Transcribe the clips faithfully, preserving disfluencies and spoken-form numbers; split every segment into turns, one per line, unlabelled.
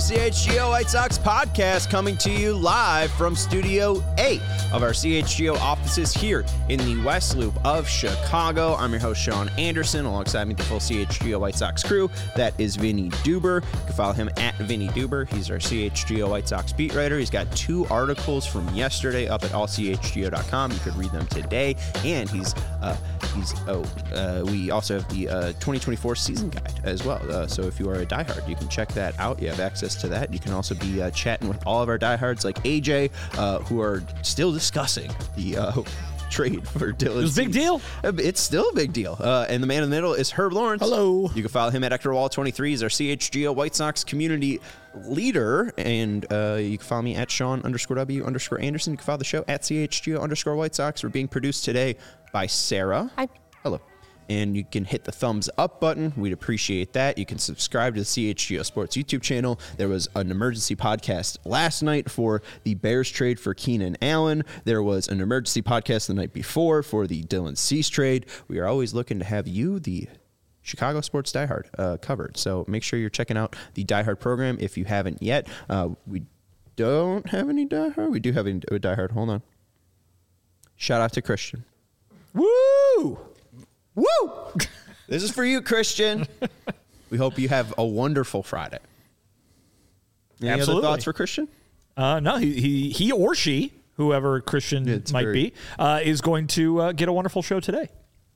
C H G O White Sox podcast, coming to you live from Studio eight of our C H G O offices here in the West Loop of Chicago. I'm your host, Sean Anderson. Alongside me, the full C H G O White Sox crew. That is Vinny Duber. You can follow him at Vinny Duber. He's our C H G O White Sox beat writer. He's got two articles from yesterday up at all c h g o dot com. You could read them today. And he's uh, he's oh uh, we also have the uh, twenty twenty-four season guide as well. Uh, so if you are a diehard, you can check that out. You have access to that. You can also be uh, chatting with all of our diehards like A J, uh, who are still discussing the uh, trade for Dylan.
It was a big deal.
It's still a big deal. Uh, and the man in the middle is Herb Lawrence.
Hello.
You can follow him at Hector Wall twenty-three. He's our C H G O White Sox community leader. And uh, you can follow me at Sean underscore W underscore Anderson. You can follow the show at C H G O underscore White Sox. We're being produced today by Sarah.
Hi.
Hello. And you can hit the thumbs up button. We'd appreciate that. You can subscribe to the C H G O Sports YouTube channel. There was an emergency podcast last night for the Bears trade for Keenan Allen. There was an emergency podcast the night before for the Dylan Cease trade. We are always looking to have you, the Chicago Sports Diehard, uh, covered. So make sure you're checking out the Diehard program if you haven't yet. Uh, we don't have any Diehard. We do have a Diehard. Hold on. Shout out to Christian.
Woo!
Woo! This is for you, Christian. We hope you have a wonderful Friday. Any
Absolutely.
other thoughts for Christian?
Uh, no, he, he he or she, whoever Christian
It's
might
very-
be, uh, is going to uh, get a wonderful show today.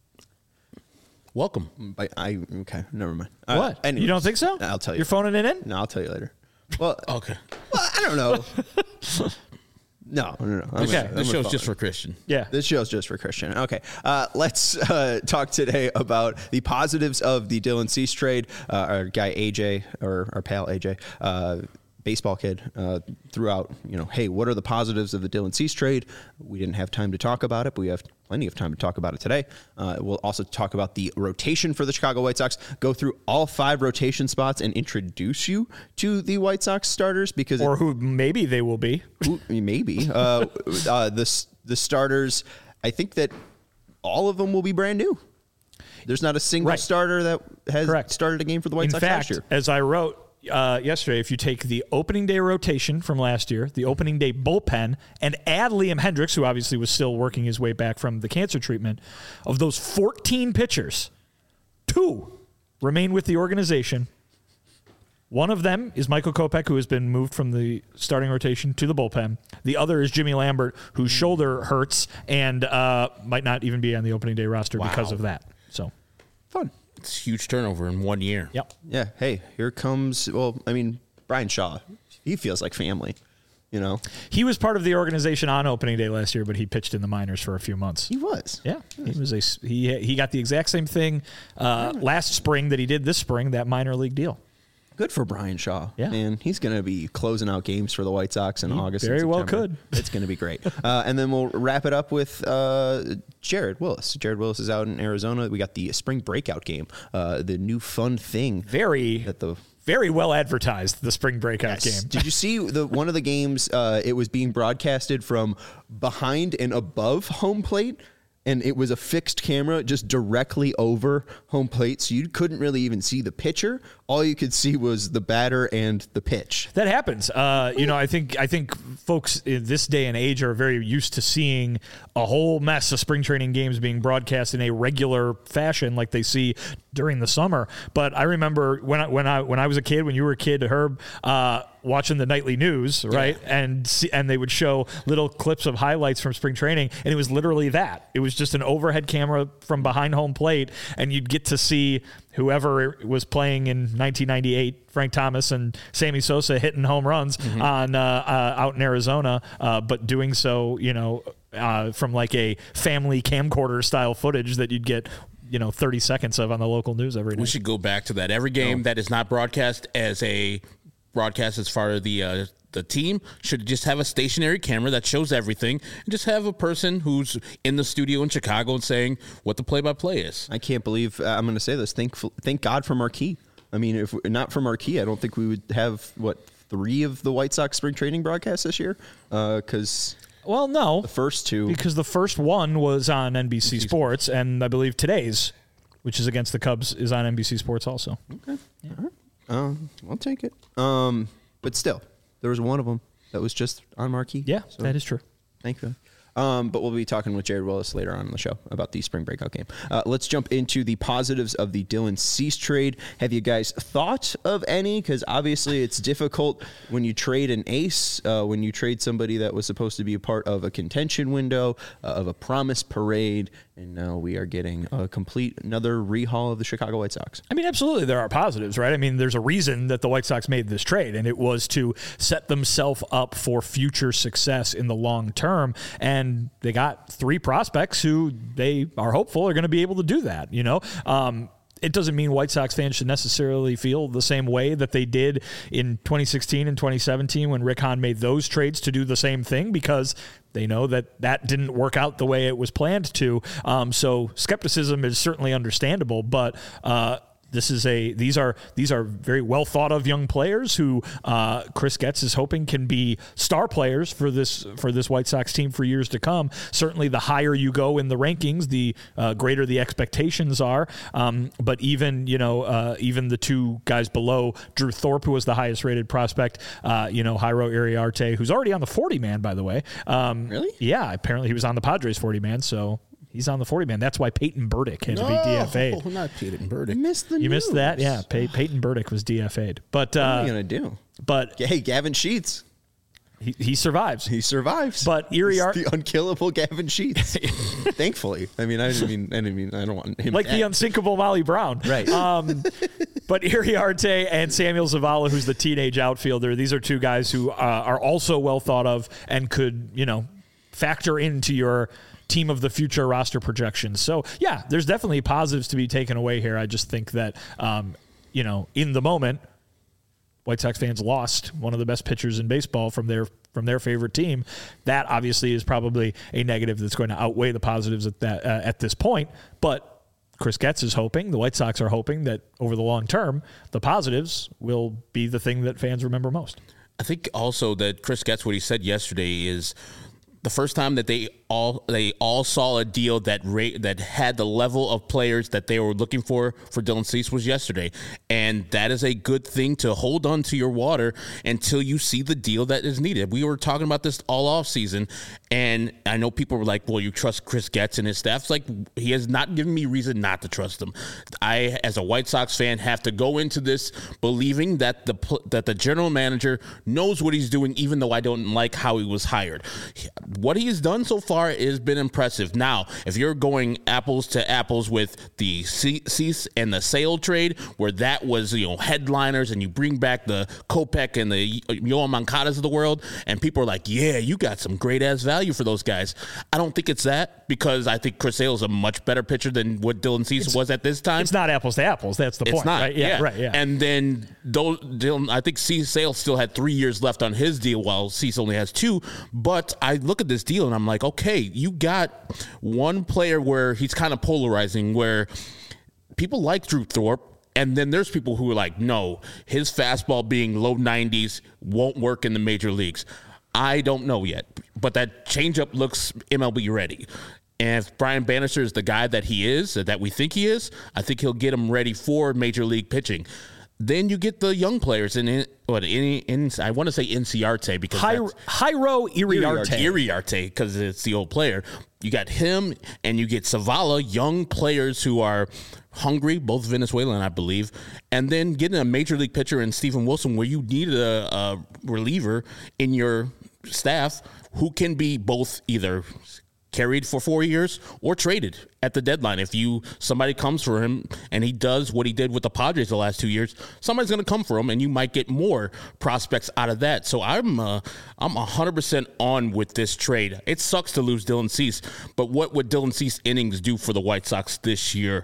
Welcome.
I, I okay, never mind.
What?
Uh, anyways,
You don't think so?
I'll tell you.
You're phoning it in?
No, I'll tell you later. Well,
Okay.
well I don't know. No, no, no. I'm
Okay.
gonna- I'm
This
gonna
show's just
follow.
for Christian.
Yeah.
This show's just for Christian. Okay, uh, let's uh, talk today about the positives of the Dylan Cease trade. Uh, our guy A J, or our pal A J, uh, baseball kid, uh, threw out, you know, hey, what are the positives of the Dylan Cease trade? We didn't have time to talk about it, but we have plenty of time to talk about it today. Uh, we'll also talk about the rotation for the Chicago White Sox, go through all five rotation spots and introduce you to the White Sox starters because
Or who maybe they will be.
Ooh, maybe. Uh, uh, the, the starters, I think that all of them will be brand new. There's not a single
Right.
starter that has
Correct.
started a game for the White
In
Sox
fact,
last year.
as I wrote uh, yesterday, if you take the opening day rotation from last year, the opening day bullpen, and add Liam Hendricks, who obviously was still working his way back from the cancer treatment, of those fourteen pitchers, two remain with the organization. One of them is Michael Kopech, who has been moved from the starting rotation to the bullpen. The other is Jimmy Lambert, whose shoulder hurts and uh, might not even be on the opening day roster
Wow.
because of that. So,
Fun.
It's huge turnover in one year.
yep.
Yeah. Hey, here comes, well, I mean, Brian Shaw. He feels like family, you know?
He was part of the organization on opening day last year, but he pitched in the minors for a few months.
He was.
Yeah, he was a he. He got the exact same thing uh, last spring that he did this spring. That minor league deal.
Good for Brian Shaw.
Yeah.
And he's going to be closing out games for the White Sox in August. and
very well
September.
could.
It's going to be great. uh, and then we'll wrap it up with uh, Jared Willis. Jared Willis is out in Arizona. We got the spring breakout game, uh, the new fun thing.
Very
That the
very well advertised. The spring breakout
Yes.
game.
Did you see the one of the games? Uh, it was being broadcasted from behind and above home plate, and it was a fixed camera just directly over home plate, so you couldn't really even see the pitcher. All you could see was the batter and the pitch.
That happens. Uh, you know, I think I think folks in this day and age are very used to seeing a whole mess of spring training games being broadcast in a regular fashion, like they see during the summer. But I remember when I, when I when I was a kid, when you were a kid, Herb, uh, watching the nightly news, right, yeah. and see, and they would show little clips of highlights from spring training, and it was literally that. It was just an overhead camera from behind home plate, and you'd get to see whoever was playing in nineteen ninety-eight, Frank Thomas and Sammy Sosa hitting home runs mm-hmm. on uh, uh, out in Arizona, uh, but doing so, you know, uh, from like a family camcorder style footage that you'd get, you know, thirty seconds of on the local news every night.
We should go back to that. Every game
no.
that is not broadcast as a broadcast as far as the uh, the team should just have a stationary camera that shows everything and just have a person who's in the studio in Chicago and saying what the play-by-play is.
I can't believe uh, I'm going to say this. Thank thank God for Marquee. I mean, if not for Marquee, I don't think we would have, what, three of the White Sox spring training broadcasts this year? Because uh,
well, no,
the first two,
because the first one was on N B C Sports, and I believe today's, which is against the Cubs, is on N B C Sports also.
Okay, yeah. All right. Um, I'll take it. Um, but still, there was one of them that was just on marquee.
Yeah,
so,
that is true.
Thank you. Um, but we'll be talking with Jared Willis later on in the show about the spring breakout game. Uh, let's jump into the positives of the Dylan Cease trade. Have you guys thought of any? Because obviously it's difficult when you trade an ace, uh, when you trade somebody that was supposed to be a part of a contention window, uh, of a promise parade, and now we are getting a complete another rehaul of the Chicago White Sox.
I mean, absolutely, there are positives, right? I mean, there's a reason that the White Sox made this trade, and it was to set themselves up for future success in the long term. And they got three prospects who they are hopeful are going to be able to do that. You know, um, it doesn't mean White Sox fans should necessarily feel the same way that they did in twenty sixteen and twenty seventeen when Rick Hahn made those trades to do the same thing, because they know that that didn't work out the way it was planned to. Um, so skepticism is certainly understandable, but uh, This is a these are these are very well thought of young players who uh, Chris Getz is hoping can be star players for this for this White Sox team for years to come. Certainly, the higher you go in the rankings, the uh, greater the expectations are. Um, but even you know uh, even the two guys below, Drew Thorpe, who was the highest rated prospect, uh, you know Jairo Iriarte, who's already on the forty man, by the way. Um,
really?
Yeah, apparently he was on the Padres forty man. So. He's on the forty man. That's why Peyton Burdick had no, to be D F A'd.
Oh, not Peyton Burdick.
You missed the
You
news.
missed that? Yeah. Pey- Peyton Burdick was D F A'd. But, uh,
what are you going to do?
But
hey, Gavin Sheets.
He, he survives.
He survives.
But Iriarte,
the unkillable Gavin Sheets. Thankfully. I mean, I didn't mean, I didn't mean, I don't want him
like
dead.
the unsinkable Molly Brown.
Right.
Um, but Iriarte and Samuel Zavala, who's the teenage outfielder, these are two guys who uh, are also well thought of and could, you know, factor into your team of the future roster projections. So, yeah, there's definitely positives to be taken away here. I just think that, um, you know, in the moment, White Sox fans lost one of the best pitchers in baseball from their from their favorite team. That obviously is probably a negative that's going to outweigh the positives at that uh, at this point. But Chris Getz is hoping, the White Sox are hoping that over the long term, the positives will be the thing that fans remember most.
I think also that Chris Getz, what he said yesterday is the first time that they all they all saw a deal that rate that had the level of players that they were looking for for Dylan Cease was yesterday, and that is a good thing to hold on to your water until you see the deal that is needed. We were talking about this all off season, and I know people were like, "Well, you trust Chris Getz and his staff?" It's like, he has not given me reason not to trust him. I, as a White Sox fan, have to go into this believing that the that the general manager knows what he's doing, even though I don't like how he was hired. What he has done so far has been impressive. Now, if you're going apples to apples with the Cease and the Sale trade, where that was, you know, headliners, and you bring back the Kopech and the Yoan Moncadas of the world, and people are like, yeah, you got some great ass value for those guys. I don't think it's that, because I think Chris Sale is a much better pitcher than what Dylan Cease it's, was at this time.
It's not apples to apples. That's the
it's
point.
Not,
right? Yeah,
yeah,
right. Yeah.
And then those, Dylan, I think Cease Sale still had three years left on his deal, while Cease only has two. But I look at this deal and I'm like, okay, you got one player where he's kind of polarizing, where people like Drew Thorpe, and then there's people who are like, no, his fastball being low nineties won't work in the major leagues. I don't know yet, but that changeup looks M L B ready. And if Brian Bannister is the guy that he is, that we think he is, I think he'll get him ready for major league pitching. Then you get the young players in what in, in I want to say Inciarte because
Hi, Jairo Iriarte,
Iriarte because it's the old player. You got him, and you get Zavala, young players who are hungry, both Venezuelan, I believe, and then getting a major league pitcher in Stephen Wilson, where you need a, a reliever in your staff who can be both either carried for four years or traded at the deadline. If you somebody comes for him and he does what he did with the Padres the last two years, somebody's going to come for him, and you might get more prospects out of that. So I'm uh, I'm one hundred percent on with this trade. It sucks to lose Dylan Cease, but what would Dylan Cease innings do for the White Sox this year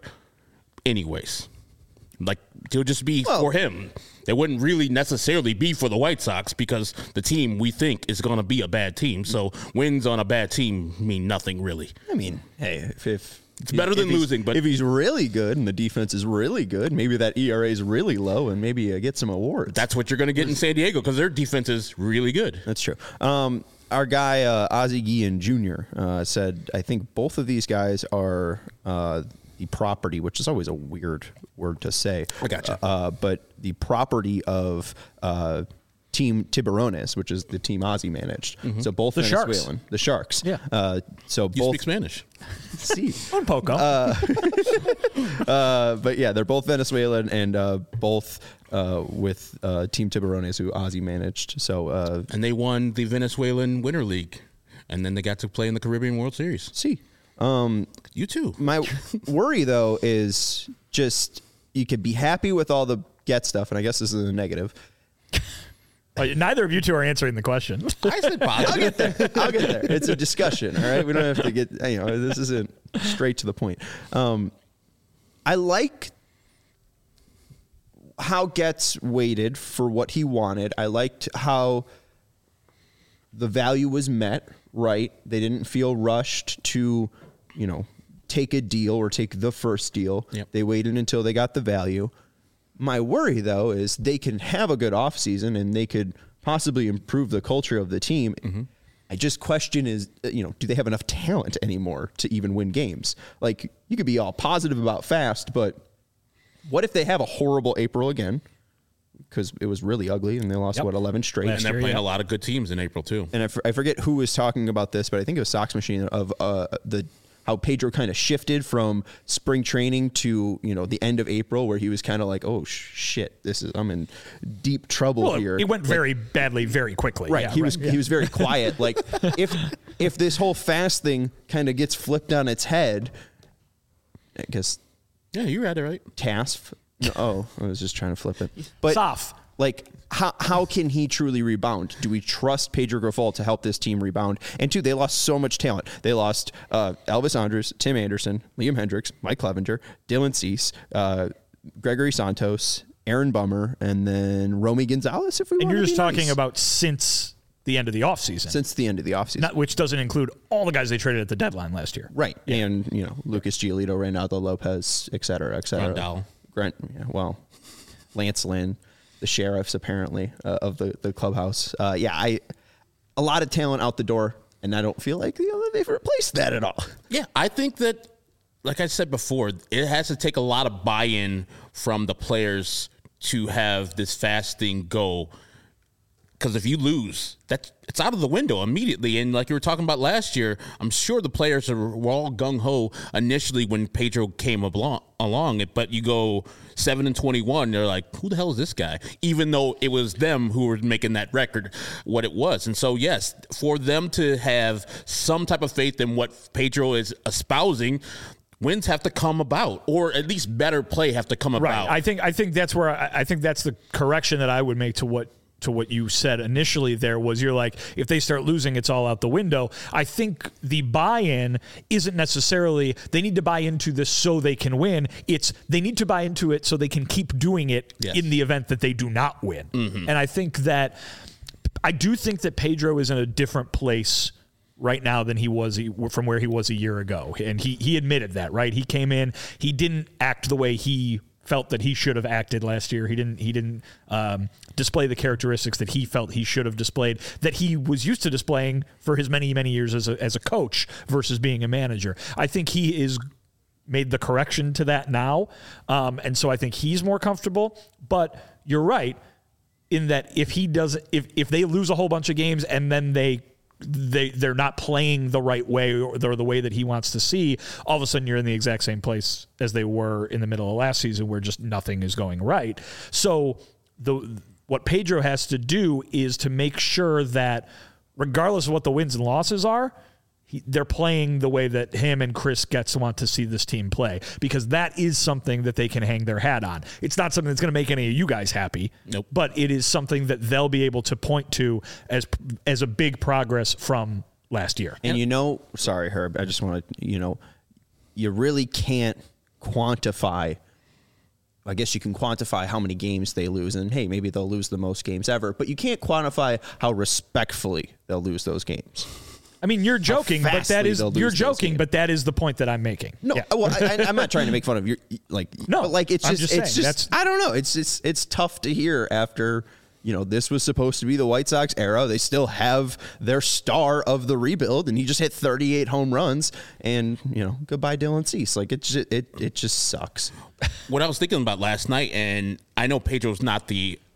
anyways? Like, it'll just be well, for him. It wouldn't really necessarily be for the White Sox, because the team we think is going to be a bad team. So wins on a bad team mean nothing, really.
I mean, hey, if, if
it's better than losing, but
if he's really good and the defense is really good, maybe that E R A is really low, and maybe uh, get some awards.
That's what you're going to get in San Diego, because their defense is really good.
That's true. Um, our guy uh, Ozzie Guillen Junior uh, said, I think both of these guys are uh, the property, which is always a weird word to say.
I gotcha.
Uh, but the property of uh, Team Tiburones, which is the team Ozzy managed. Mm-hmm. So both
the
Venezuelan,
Sharks.
the Sharks.
Yeah.
Uh, so
You
both
speak Spanish.
See,
Un poco.
uh, uh, but yeah, they're both Venezuelan and uh, both uh, with uh, Team Tiburones, who Ozzy managed. So uh,
And they won the Venezuelan Winter League, and then they got to play in the Caribbean World Series.
see, um,
You too.
my worry though is just you could be happy with all the get stuff, and I guess this is a negative.
Uh, neither of you two are answering the question.
I said
I'll
positive.
get there. I'll get there. It's a discussion, all right? We don't have to get, you know, this isn't straight to the point. Um, I like how Getz waited for what he wanted. I liked how the value was met, right? They didn't feel rushed to, you know, take a deal or take the first deal.
Yep.
They waited until they got the value. My worry, though, is they can have a good offseason and they could possibly improve the culture of the team. Mm-hmm. I just question is, you know, do they have enough talent anymore to even win games? Like, you could be all positive about Fast, but what if they have a horrible April again? Because it was really ugly and they lost,
Yep.
what, eleven straight?
And they're
year,
playing
yeah.
a lot of good teams in April, too.
And I, f- I forget who was talking about this, but I think it was Sox Machine of uh, the how Pedro kind of shifted from spring training to, you know, the end of April, where he was kind of like, oh sh- shit, this is I'm in deep trouble
Well,
here.
it went
Like,
very badly, very quickly.
right.
Yeah,
he was
yeah.
he was very quiet. Like if if this whole Fast thing kind of gets flipped on its head, I guess
Yeah, you read it right.
Task. No, oh, I was just trying to flip it. But
Soft.
like, how how can he truly rebound? Do we trust Pedro Grifol to help this team rebound? And two, they lost so much talent. They lost uh, Elvis Andrus, Tim Anderson, Liam Hendricks, Mike Clevenger, Dylan Cease, uh, Gregory Santos, Aaron Bummer, and then Romy Gonzalez. If we
And
wanna
you're just
be
talking
nice.
about since the end of the offseason,
since the end of the offseason.
not, which doesn't include all the guys they traded at the deadline last year.
Right. And, you know, Lucas Giolito, Reynaldo Lopez, et cetera, et cetera.
Grandal.
Grant, yeah, well, Lance Lynn, the sheriffs, apparently, uh, of the, the clubhouse. Uh, yeah, I a lot of talent out the door, and I don't feel like, you know, they've replaced that at all.
Yeah, I think that, like I said before, it has to take a lot of buy-in from the players to have this Fast thing go. Because if you lose, that's it's out of the window immediately. And like you were talking about last year, I'm sure the players are, were all gung-ho initially when Pedro came along, along. But you go seven and twenty-one, they're like, who the hell is this guy? Even though it was them who were making that record what it was. And so, yes, for them to have some type of faith in what Pedro is espousing, wins have to come about, or at least better play have to come
Right.
about.
I think I think that's where I, I think that's the correction that I would make to what to what you said initially. There was you're like, if they start losing, it's all out the window. I think the buy-in isn't necessarily they need to buy into this so they can win. It's they need to buy into it so they can keep doing it
Yes.
in the event that they do not win.
Mm-hmm.
And I think that I do think that Pedro is in a different place right now than he was from where he was a year ago. And he he admitted that, right? He came in, he didn't act the way he felt that he should have acted last year. He didn't he didn't um, display the characteristics that he felt he should have displayed, that he was used to displaying for his many, many years as a, as a coach versus being a manager. I think he is made the correction to that now. Um, and so I think he's more comfortable. But you're right in that if he does, if, if they lose a whole bunch of games and then they they they're not playing the right way or the, the way that he wants to see, all of a sudden you're in the exact same place as they were in the middle of last season where just nothing is going right. So the what Pedro has to do is to make sure that regardless of what the wins and losses are, he, they're playing the way that him and Chris Getz want to see this team play, because that is something that they can hang their hat on. It's not something that's going to make any of you guys happy,
Nope.
but it is something that they'll be able to point to as as a big progress from last year.
And you know, sorry, Herb, I just want to, you know, you really can't quantify. I guess you can quantify how many games they lose, and hey, maybe they'll lose the most games ever, but you can't quantify how respectfully they'll lose those games.
I mean, you're joking, but that
fastly
is
they'll lose
you're
those
joking,
games.
but that is the point that I'm making.
No,
Yeah.
well, I, I- I'm not trying to make fun of your like.
No,
but like it's
I'm
just,
just
it's
saying,
just
that's-
I don't know. It's it's it's tough to hear after, you know, this was supposed to be the White Sox era. They still have their star of the rebuild, and he just hit thirty-eight home runs. And you know, goodbye Dylan Cease. Like it just, it it just sucks.
What I was thinking about last night, and I know Pedro's not the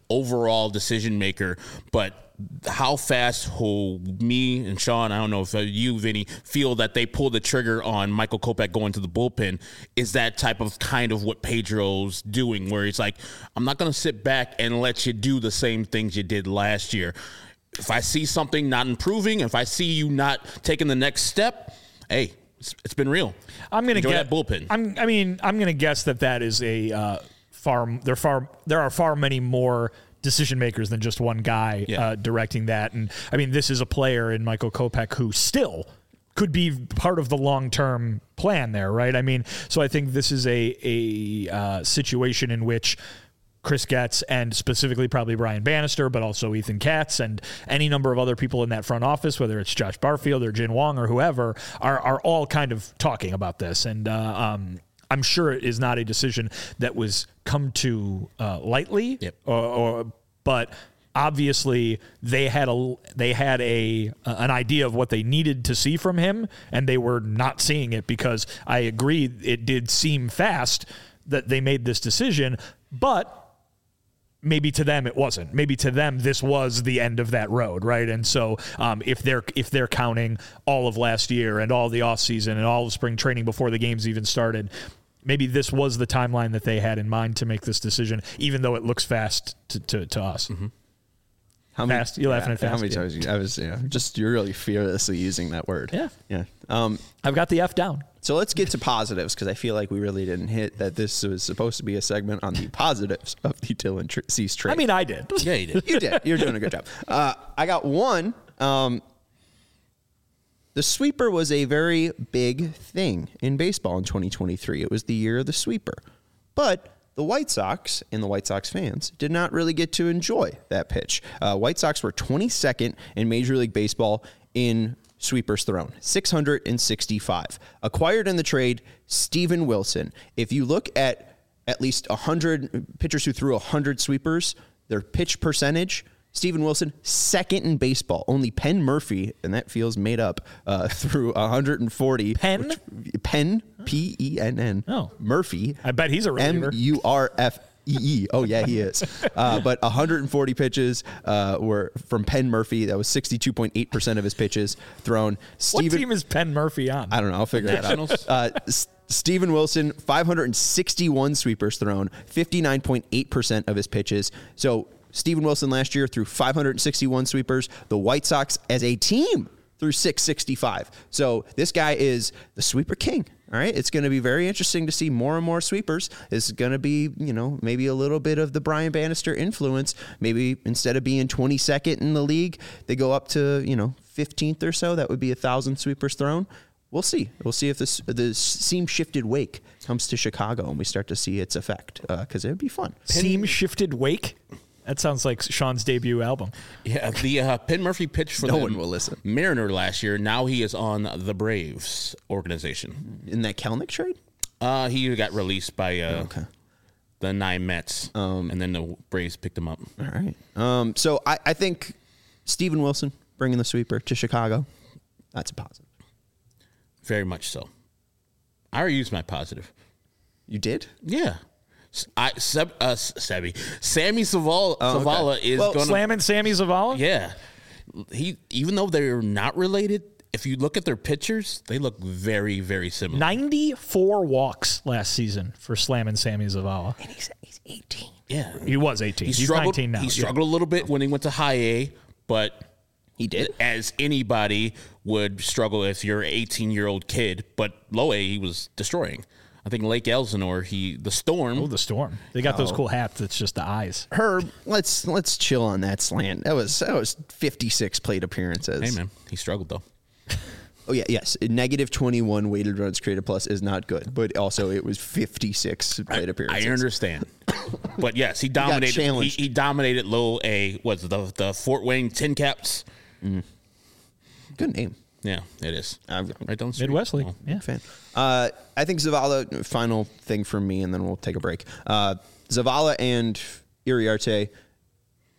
overall decision maker, but how fast will me and Sean, I don't know if you, Vinny, feel that they pull the trigger on Michael Kopech going to the bullpen is that type of kind of what Pedro's doing, where he's like, I'm not going to sit back and let you do the same things you did last year. If I see something not improving, if I see you not taking the next step, hey, it's, it's been real.
I'm going to
get that bullpen.
I'm, I mean, I'm going to guess that that is a uh, far, there far, there are far many more decision makers than just one guy
yeah. uh,
directing that. And I mean, this is a player in Michael Kopech who still could be part of the long-term plan there, right? I mean, so I think this is a, a uh, situation in which Chris Getz and specifically probably Brian Bannister, but also Ethan Katz and any number of other people in that front office, whether it's Josh Barfield or Jin Wong or whoever, are, are all kind of talking about this. And, uh, um, I'm sure it is not a decision that was come to uh, lightly,
yep.
or, or but obviously they had a they had a uh, an idea of what they needed to see from him, and they were not seeing it because I agree it did seem fast that they made this decision, but maybe to them it wasn't. Maybe to them this was the end of that road, right? And so um, if they're if they're counting all of last year and all the offseason and all of spring training before the games even started, maybe this was the timeline that they had in mind to make this decision, even though it looks fast to, to, to us.
Mm-hmm.
How many,
fast? You're
yeah,
laughing at fast.
How many times you, I was yeah, just you're really fearlessly using that word.
Yeah.
Yeah. Um,
I've got the F down.
So let's get to positives because I feel like we really didn't hit that this was supposed to be a segment on the positives of the Dylan Tr- Cease trade.
I mean, I did.
Yeah, you did.
You did. You're doing a good job. Uh, I got one. Um, the sweeper was a very big thing in baseball in twenty twenty-three. It was the year of the sweeper. But the White Sox and the White Sox fans did not really get to enjoy that pitch. Uh, White Sox were twenty-second in Major League Baseball in sweepers thrown, six hundred sixty-five. Acquired in the trade, Steven Wilson. If you look at at least one hundred pitchers who threw one hundred sweepers, their pitch percentage, Steven Wilson, second in baseball. Only Penn Murphy, and that feels made up, uh, threw one hundred forty.
Penn?
Which, Penn, P E N N.
Oh.
Murphy.
I bet he's a reliever.
M U R F E E. Oh, yeah, he is. Uh, but one hundred forty pitches uh, were from Penn Murphy. That was sixty-two point eight percent of his pitches thrown.
Steven, what team is Penn Murphy on?
I don't know. I'll figure that out. Uh, S- Steven Wilson, five hundred sixty-one sweepers thrown, fifty-nine point eight percent of his pitches. So Steven Wilson last year threw five hundred sixty-one sweepers. The White Sox as a team threw six sixty-five. So this guy is the sweeper king. All right. It's going to be very interesting to see more and more sweepers. It's going to be, you know, maybe a little bit of the Brian Bannister influence. Maybe instead of being twenty-second in the league, they go up to, you know, fifteenth or so. That would be a thousand sweepers thrown. We'll see. We'll see if this the seam shifted wake comes to Chicago and we start to see its effect because uh, it would be fun.
Seam shifted wake? That sounds like Sean's debut album.
Yeah, the uh, Penn Murphy pitched for
no
the
one will listen.
Mariner last year. Now he is on the Braves organization.
In that Kelnick trade?
Uh, he got released by uh,
okay.
the nine Mets, um, and then the Braves picked him up.
All right. Um, so I, I think Steven Wilson bringing the sweeper to Chicago, that's a positive.
Very much so. I already used my positive.
You did?
Yeah. I Seb, uh, Sebby, Sammy Zavala, oh, Zavala okay. is
well,
going to
slamming Sammy Zavala.
Yeah, he even though they're not related, if you look at their pictures, they look very, very similar.
ninety-four walks last season for slamming Sammy Zavala,
and he's he's eighteen.
Yeah,
he was eighteen.
He
he's
struggled,
nineteen now.
He struggled yeah. a little bit when he went to high A, but
he did,
as anybody would struggle if you're an eighteen-year-old kid. But low A, he was destroying. I think Lake Elsinore, he the Storm.
Oh, the Storm! They got
oh.
those cool hats. It's just the eyes.
Herb, let's let's chill on that slant. That was that was fifty-six plate appearances.
Hey man, he struggled though.
Oh yeah, yes. Negative twenty-one weighted runs created plus is not good, but also it was fifty-six plate appearances.
I understand, but yes, he dominated. He, he dominated low A. Was the the Fort Wayne Tin Caps?
Mm. Good name.
Yeah, it is.
I'm,
right down the street.
Midwest League.
Oh.
Yeah.
Fan. Uh, I think Zavala, final thing from me, and then we'll take a break. Uh, Zavala and Iriarte,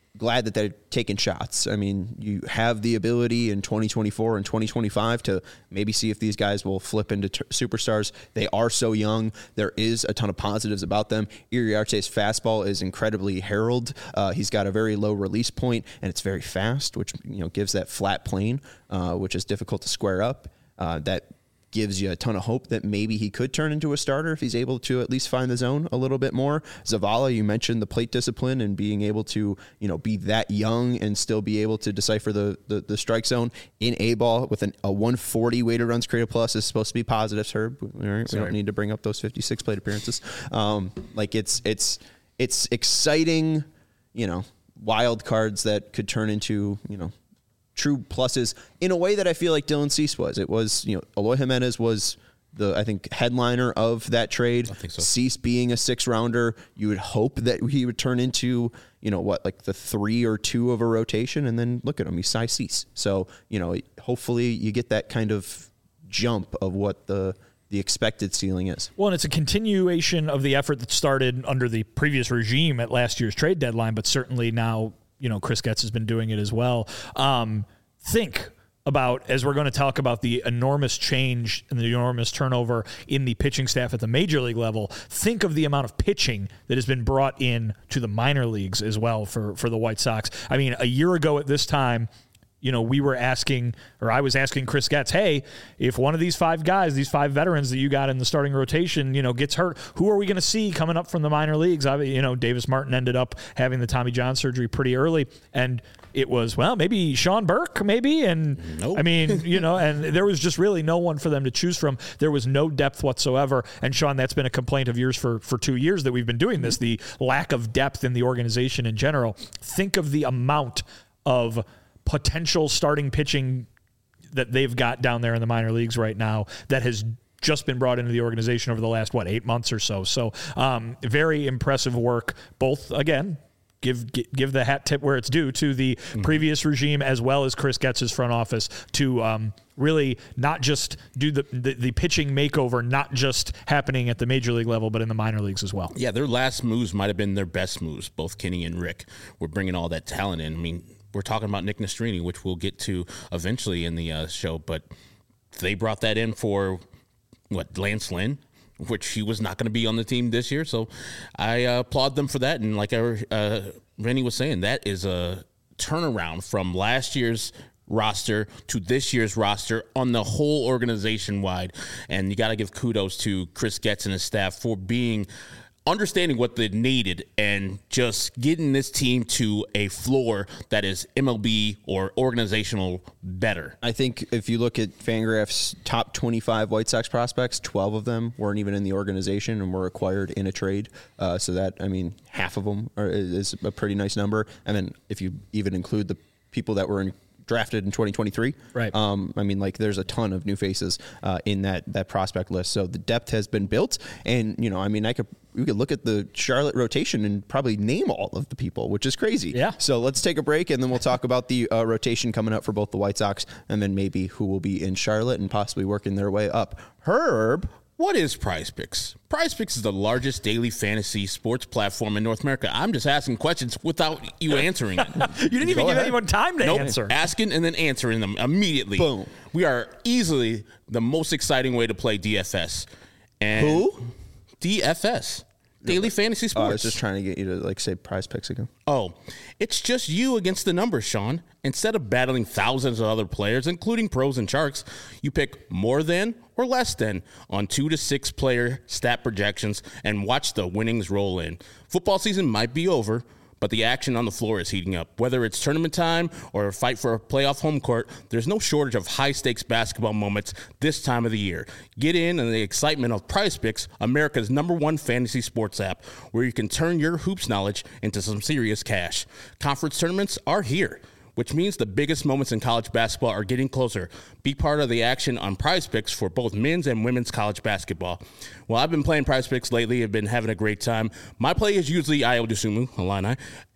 glad that they're taking shots. I mean, you have the ability in twenty twenty-four and twenty twenty-five to maybe see if these guys will flip into t- superstars. They are so young. There is a ton of positives about them. Iriarte's fastball is incredibly heralded. Uh, he's got a very low release point, and it's very fast, which you know gives that flat plane, uh, which is difficult to square up. Uh, that gives you a ton of hope that maybe he could turn into a starter if he's able to at least find the zone a little bit more. Zavala, you mentioned the plate discipline and being able to, you know, be that young and still be able to decipher the the, the strike zone in A ball with an, a one forty weighted runs created plus is supposed to be positives, Herb. Right? We don't need to bring up those fifty-six plate appearances. Um, like it's it's it's exciting, you know, wild cards that could turn into, you know, true pluses in a way that I feel like Dylan Cease was. It was, you know, Eloy Jimenez was the, I think, headliner of that trade.
I think so.
Cease being a six rounder, you would hope that he would turn into, you know, what, like the three or two of a rotation, and then look at him, he's Cy Cease. So, you know, hopefully you get that kind of jump of what the the expected ceiling is.
Well, and it's a continuation of the effort that started under the previous regime at last year's trade deadline, but certainly now, you know, Chris Getz has been doing it as well. Um, think about, as we're going to talk about the enormous change and the enormous turnover in the pitching staff at the major league level, think of the amount of pitching that has been brought in to the minor leagues as well for, for the White Sox. I mean, a year ago at this time, you know, we were asking, or I was asking Chris Getz, hey, if one of these five guys, these five veterans that you got in the starting rotation, you know, gets hurt, who are we going to see coming up from the minor leagues? I, you know, Davis Martin ended up having the Tommy John surgery pretty early, and it was, well, maybe Sean Burke, maybe, and
nope.
I mean, you know, and there was just really no one for them to choose from. There was no depth whatsoever, and Sean, that's been a complaint of yours for, for two years that we've been doing this, the lack of depth in the organization in general. Think of the amount of potential starting pitching that they've got down there in the minor leagues right now that has just been brought into the organization over the last, what, eight months or so. So um, very impressive work, both, again, give give the hat tip where it's due to the mm-hmm. previous regime as well as Chris Getz's front office to um, really not just do the, the, the pitching makeover, not just happening at the major league level, but in the minor leagues as well.
Yeah, their last moves might have been their best moves. Both Kenny and Rick were bringing all that talent in. I mean, we're talking about Nick Nastrini, which we'll get to eventually in the uh, show, but they brought that in for, what, Lance Lynn, which he was not going to be on the team this year. So I uh, applaud them for that. And like our, uh, Rennie was saying, that is a turnaround from last year's roster to this year's roster on the whole organization wide. And you got to give kudos to Chris Getz and his staff for being understanding what they needed and just getting this team to a floor that is M L B or organizational better.
I think if you look at Fangraph's top twenty-five White Sox prospects, twelve of them weren't even in the organization and were acquired in a trade. Uh, so that, I mean, half of them are, is a pretty nice number. And then if you even include the people that were in drafted in twenty twenty-three.
Right.
Um, I mean, like, there's a ton of new faces uh, in that that prospect list. So the depth has been built, and you know, I mean, I could we could look at the Charlotte rotation and probably name all of the people, which is crazy.
Yeah.
So let's take a break, and then we'll talk about the uh, rotation coming up for both the White Sox, and then maybe who will be in Charlotte and possibly working their way up. Herb.
What is Prize Picks? Prize Picks is the largest daily fantasy sports platform in North America. I'm just asking questions without you answering it.
You didn't even
Go
give
ahead.
anyone time to
Nope.
answer.
Asking and then answering them immediately.
Boom.
We are easily the most exciting way to play D F S. And
Who?
D F S. Daily Fantasy
Oh,
Sports.
I was just trying to get you to like say Prize Picks again.
Oh, it's just you against the numbers, Sean. Instead of battling thousands of other players, including pros and sharks, you pick more than or less than on two to six player stat projections and watch the winnings roll in. Football season might be over, but the action on the floor is heating up. Whether it's tournament time or a fight for a playoff home court, there's no shortage of high-stakes basketball moments this time of the year. Get in on the excitement of Prize Picks, America's number one fantasy sports app, where you can turn your hoops knowledge into some serious cash. Conference tournaments are here, which means the biggest moments in college basketball are getting closer. Be part of the action on Prize Picks for both men's and women's college basketball. Well, I've been playing Prize Picks lately. I've been having a great time. My play is usually Ayo Dosunmu, Illini,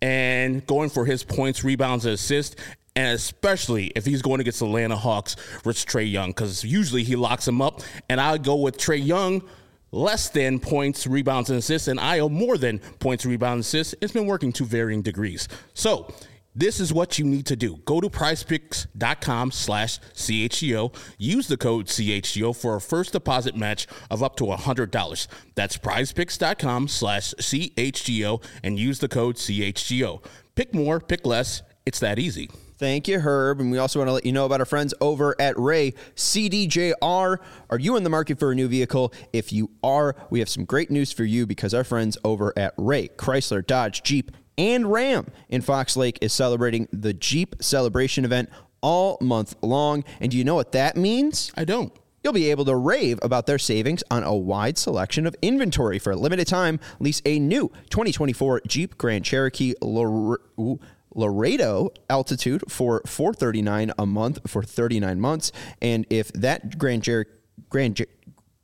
and going for his points, rebounds, and assists, and especially if he's going against the Atlanta Hawks versus Trae Young, because usually he locks him up, and I go with Trae Young less than points, rebounds, and assists, and Ayo more than points, rebounds, and assists. It's been working to varying degrees. So this is what you need to do. Go to prizepicks.com slash CHGO. Use the code C H G O for a first deposit match of up to one hundred dollars. That's prizepicks.com slash CHGO and use the code C H G O. Pick more, pick less. It's that easy.
Thank you, Herb. And we also want to let you know about our friends over at Ray C D J R. Are you in the market for a new vehicle? If you are, we have some great news for you because our friends over at Ray Chrysler, Dodge, Jeep, and Ram in Fox Lake is celebrating the Jeep Celebration event all month long. And do you know what that means?
I don't.
You'll be able to rave about their savings on a wide selection of inventory. For a limited time, lease a new twenty twenty-four Jeep Grand Cherokee Lore- ooh, Laredo Altitude for four hundred thirty-nine dollars a month for thirty-nine months. And if that Grand, Jer- Grand, Jer-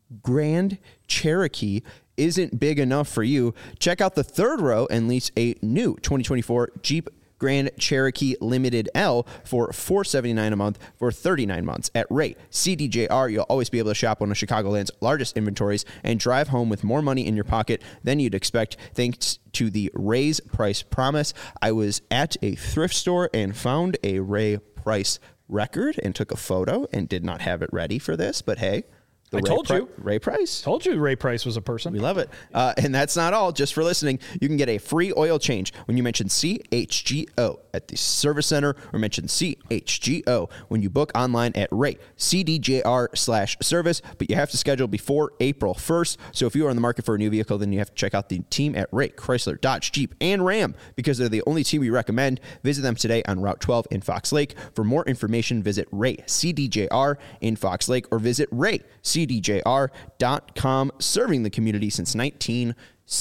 Grand Cherokee isn't big enough for you, check out the third row and lease a new twenty twenty-four Jeep Grand Cherokee Limited L for four hundred seventy-nine dollars a month for thirty-nine months. At Ray C D J R, you'll always be able to shop one of Chicagoland's largest inventories and drive home with more money in your pocket than you'd expect thanks to the Ray's Price Promise. I was at a thrift store and found a Ray Price record and took a photo and did not have it ready for this, but hey, the
I
Ray
told
Pri-
you.
Ray Price.
Told you Ray Price was a person.
We love it. Uh, and that's not all. Just for listening, you can get a free oil change when you mention C H G O at the service center or mention C H G O when you book online at Ray C D J R slash service. But you have to schedule before April first. So if you are in the market for a new vehicle, then you have to check out the team at Ray Chrysler, Dodge, Jeep, and Ram because they're the only team we recommend. Visit them today on Route twelve in Fox Lake. For more information, visit Ray C D J R in Fox Lake or visit Ray C D J R dot com, serving the community since nineteen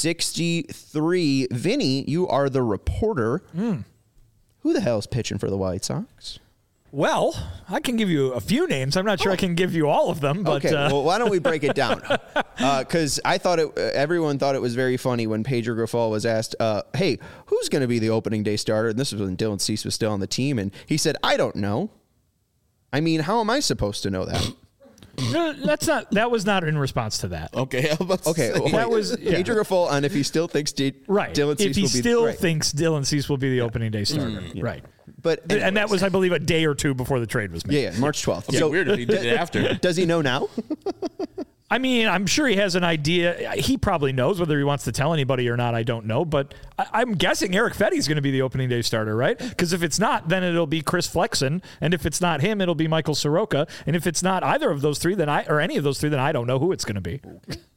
sixty-three. Vinny, you are the reporter.
Mm.
Who the hell is pitching for the White Sox?
Well, I can give you a few names. I'm not sure oh. I can give you all of them. But
okay,
uh,
well, why don't we break it down? Because uh, I thought it. Uh, everyone thought it was very funny when Pedro Grifol was asked, uh, "Hey, who's going to be the opening day starter?" And this was when Dylan Cease was still on the team, and he said, "I don't know." I mean, how am I supposed to know that?
No, that's not. That was not in response to that.
Okay.
Okay. Well,
that was yeah.
Pedro Grifol on if he still thinks D-
right.
Dylan Cease
if he
will be
still
right.
thinks Dylan Cease will be the yeah. opening day starter, mm, yeah. right?
But anyways.
And that was, I believe, a day or two before the trade was made.
Yeah, yeah March twelfth.
Okay, so weird if he did it after.
Does he know now?
I mean, I'm sure he has an idea. He probably knows. Whether he wants to tell anybody or not, I don't know. But I, I'm guessing Eric Fetty is going to be the opening day starter, right? Because if it's not, then it'll be Chris Flexen. And if it's not him, it'll be Michael Soroka. And if it's not either of those three, then I or any of those three, then I don't know who it's going to be.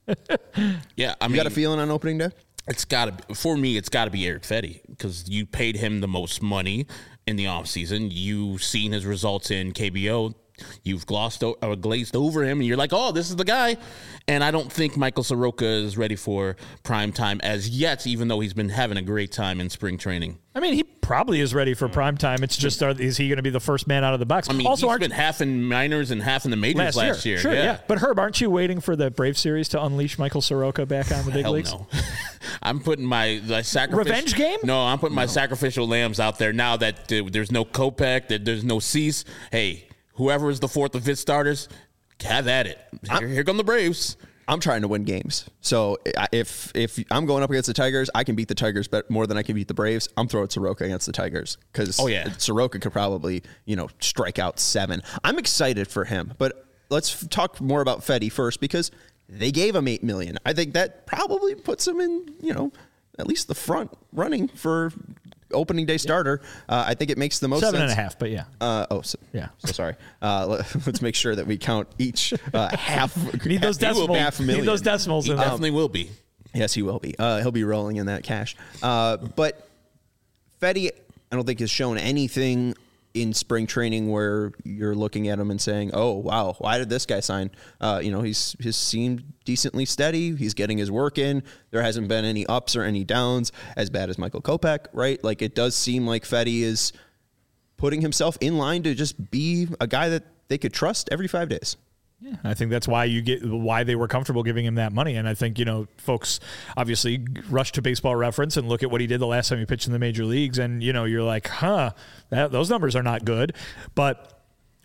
yeah, I
you
mean,
got a feeling on opening day?
It's got to be, for me, it's got to be Eric Fetty because you paid him the most money in the offseason. You've seen his results in K B O. You've glossed o- or glazed over him, and you're like, oh, this is the guy. And I don't think Michael Soroka is ready for prime time as yet, even though he's been having a great time in spring training.
I mean, he probably is ready for prime time. It's just, are, is he going to be the first man out of the box?
I mean, also, he's been half in minors and half in the majors last, last year.
year. Sure,
yeah.
yeah. But Herb, aren't you waiting for the Brave series to unleash Michael Soroka back on the big
Hell
leagues?
No. I'm putting my, my sacrificial
revenge game.
No, I'm putting
no.
my sacrificial lambs out there now that uh, there's no Kopech, that there's no Cease. Hey, whoever is the fourth or fifth starters, have at it. Here, here come the Braves.
I'm trying to win games. So if if I'm going up against the Tigers, I can beat the Tigers more than I can beat the Braves. I'm throwing Soroka against the Tigers because
oh, yeah.
Soroka could probably, you know, strike out seven. I'm excited for him, but let's talk more about Fetty first because they gave him eight million dollars. I think that probably puts him in, you know, at least the front running for opening day starter. Uh, I think it makes the most
Seven
sense.
and a half, but yeah.
Uh, oh, so,
yeah.
So sorry. Uh, let, let's make sure that we count each uh, half.
Need those decimals.
Half million.
Need those decimals.
He
in
definitely
um,
will be.
Yes, he will be. Uh, he'll be rolling in that cash. Uh, but Fetty, I don't think has shown anything in spring training where you're looking at him and saying, "Oh, wow, why did this guy sign?" Uh, you know, he's he's seemed decently steady. He's getting his work in. There hasn't been any ups or any downs as bad as Michael Kopech, right? Like it does seem like Fetty is putting himself in line to just be a guy that they could trust every five days.
Yeah, I think that's why you get why they were comfortable giving him that money. And I think, you know, folks obviously rush to Baseball Reference and look at what he did the last time he pitched in the major leagues. And, you know, you're like, huh, that, those numbers are not good. But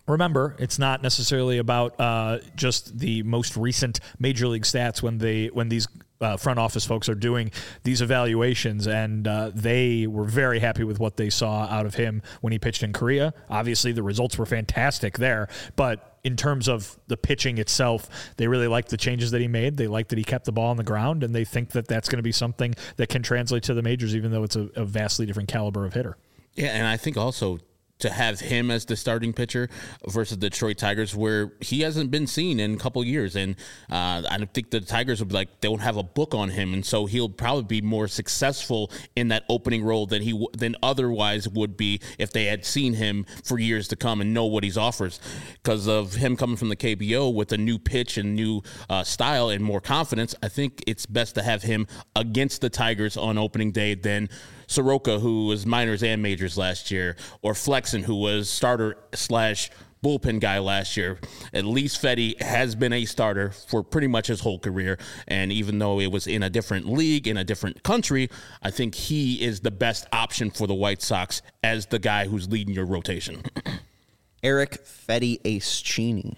Remember, it's not necessarily about uh, just the most recent major league stats when they when these uh, front office folks are doing these evaluations, and uh, they were very happy with what they saw out of him when he pitched in Korea. Obviously, the results were fantastic there, but in terms of the pitching itself, they really liked the changes that he made. They liked that he kept the ball on the ground, and they think that that's going to be something that can translate to the majors, even though it's a, a vastly different caliber of hitter.
Yeah, and I think also to have him as the starting pitcher versus the Detroit Tigers, where he hasn't been seen in a couple of years. And uh, I think the Tigers would be like, they don't have a book on him. And so he'll probably be more successful in that opening role than he w- than otherwise would be if they had seen him for years to come and know what he offers. Because of him coming from the K B O with a new pitch and new uh, style and more confidence, I think it's best to have him against the Tigers on opening day than Soroka, who was minors and majors last year, or Flexen, who was starter slash bullpen guy last year. At least Fedde has been a starter for pretty much his whole career, and even though it was in a different league, in a different country, I think he is the best option for the White Sox as the guy who's leading your rotation.
Eric Fedde Eschini.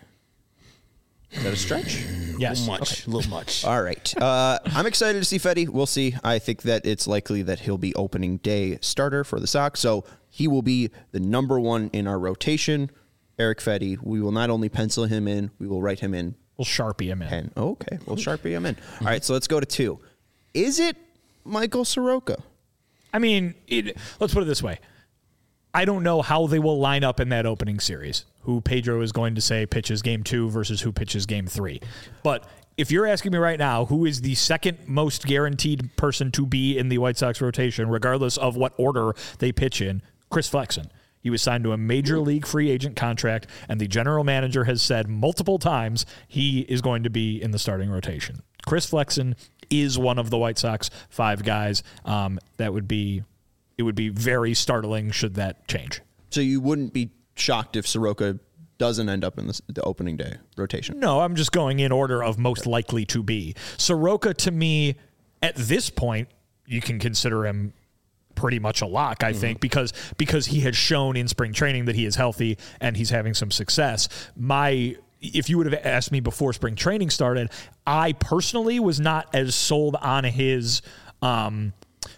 Is that a stretch?
Yes.
A little much.
Okay.
A little much.
All right. Uh, I'm excited to see Fedde. We'll see. I think that it's likely that he'll be opening day starter for the Sox, so he will be the number one in our rotation. Eric Fedde, we will not only pencil him in, we will write him in.
We'll Sharpie him in.
ten. Oh, okay. We'll Sharpie him in. All right, so let's go to two. Is it Michael Soroka?
I mean, it, let's put it this way. I don't know how they will line up in that opening series, who Pedro is going to say pitches game two versus who pitches game three. But if you're asking me right now, who is the second most guaranteed person to be in the White Sox rotation, regardless of what order they pitch in, Chris Flexen. He was signed to a major league free agent contract, and the general manager has said multiple times he is going to be in the starting rotation. Chris Flexen is one of the White Sox five guys. Um, that would be... It would be very startling should that change.
So you wouldn't be shocked if Soroka doesn't end up in the, the opening day rotation?
No, I'm just going in order of most likely to be. Soroka, to me, at this point, you can consider him pretty much a lock, I mm-hmm. think, because because he has shown in spring training that he is healthy and he's having some success. My... If you would have asked me before spring training started, I personally was not as sold on his um,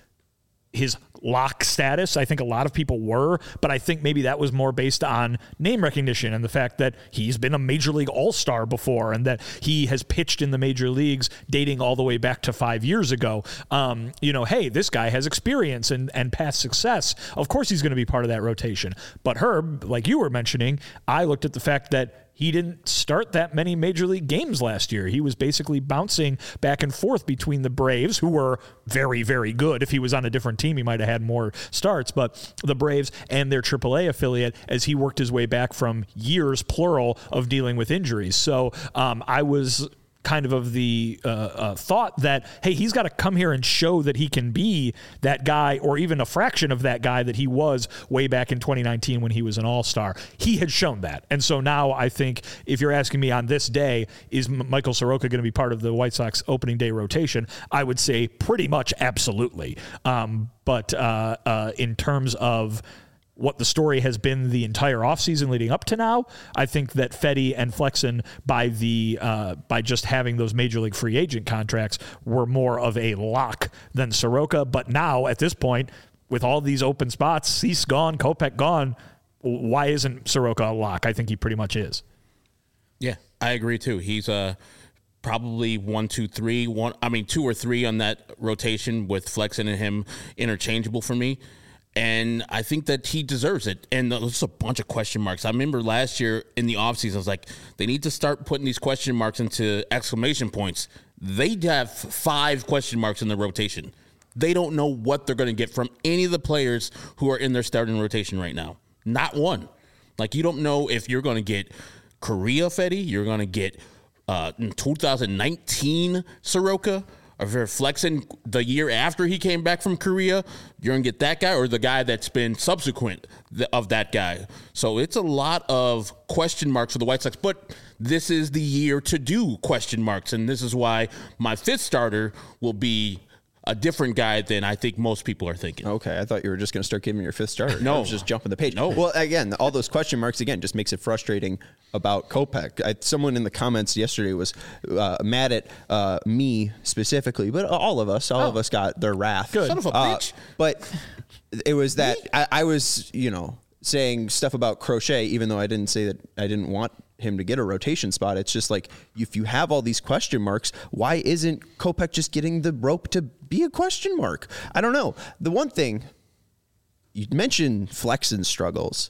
his lock status. I think a lot of people were, but I think maybe that was more based on name recognition and the fact that he's been a major league all-star before and that he has pitched in the major leagues dating all the way back to five years ago. Um, you know, hey, this guy has experience and, and past success. Of course he's going to be part of that rotation. But Herb, like you were mentioning, I looked at the fact that he didn't start that many major league games last year. He was basically bouncing back and forth between the Braves, who were very, very good. If he was on a different team, he might have had more starts, but the Braves and their triple A affiliate as he worked his way back from years, plural, of dealing with injuries. So um, I was kind of of the uh, uh, thought that, hey, he's got to come here and show that he can be that guy or even a fraction of that guy that he was way back in twenty nineteen when he was an all-star. He had shown that. And so now I think if you're asking me on this day, is M- Michael Soroka going to be part of the White Sox opening day rotation? I would say pretty much absolutely. Um, but uh, uh, in terms of what the story has been the entire offseason leading up to now, I think that Fedde and Flexen, by the uh, by just having those major league free agent contracts, were more of a lock than Soroka. But now, at this point, with all these open spots, Cease gone, Kopech gone, why isn't Soroka a lock? I think he pretty much is.
Yeah, I agree too. He's uh, probably one, two, three, one. I mean, two or three on that rotation with Flexen and him interchangeable for me. And I think that he deserves it. And there's a bunch of question marks. I remember last year in the offseason, I was like, they need to start putting these question marks into exclamation points. They have five question marks in the rotation. They don't know what they're going to get from any of the players who are in their starting rotation right now. Not one. Like, you don't know if you're going to get Korea Fedde, you're going to get uh, in two thousand nineteen Soroka, or if you're Flexen the year after he came back from Korea, you're going to get that guy or the guy that's been subsequent of that guy. So it's a lot of question marks for the White Sox, but this is the year to do question marks, and this is why my fifth starter will be a different guy than I think most people are thinking.
Okay, I thought you were just going to start giving your fifth starter.
No.
I was just jumping the page.
No.
Well, again, all those question marks, again, just makes it frustrating about Kopech. I, someone in the comments yesterday was uh, mad at uh, me specifically, but all of us, all
Oh.
of us got their wrath.
Good. Son of a
Uh,
bitch.
But it was that I, I was, you know, saying stuff about Crochet, even though I didn't say that I didn't want him to get a rotation spot. It's just like, if you have all these question marks, why isn't Kopech just getting the rope to be a question mark? I don't know. The one thing, you mentioned Flexen struggles.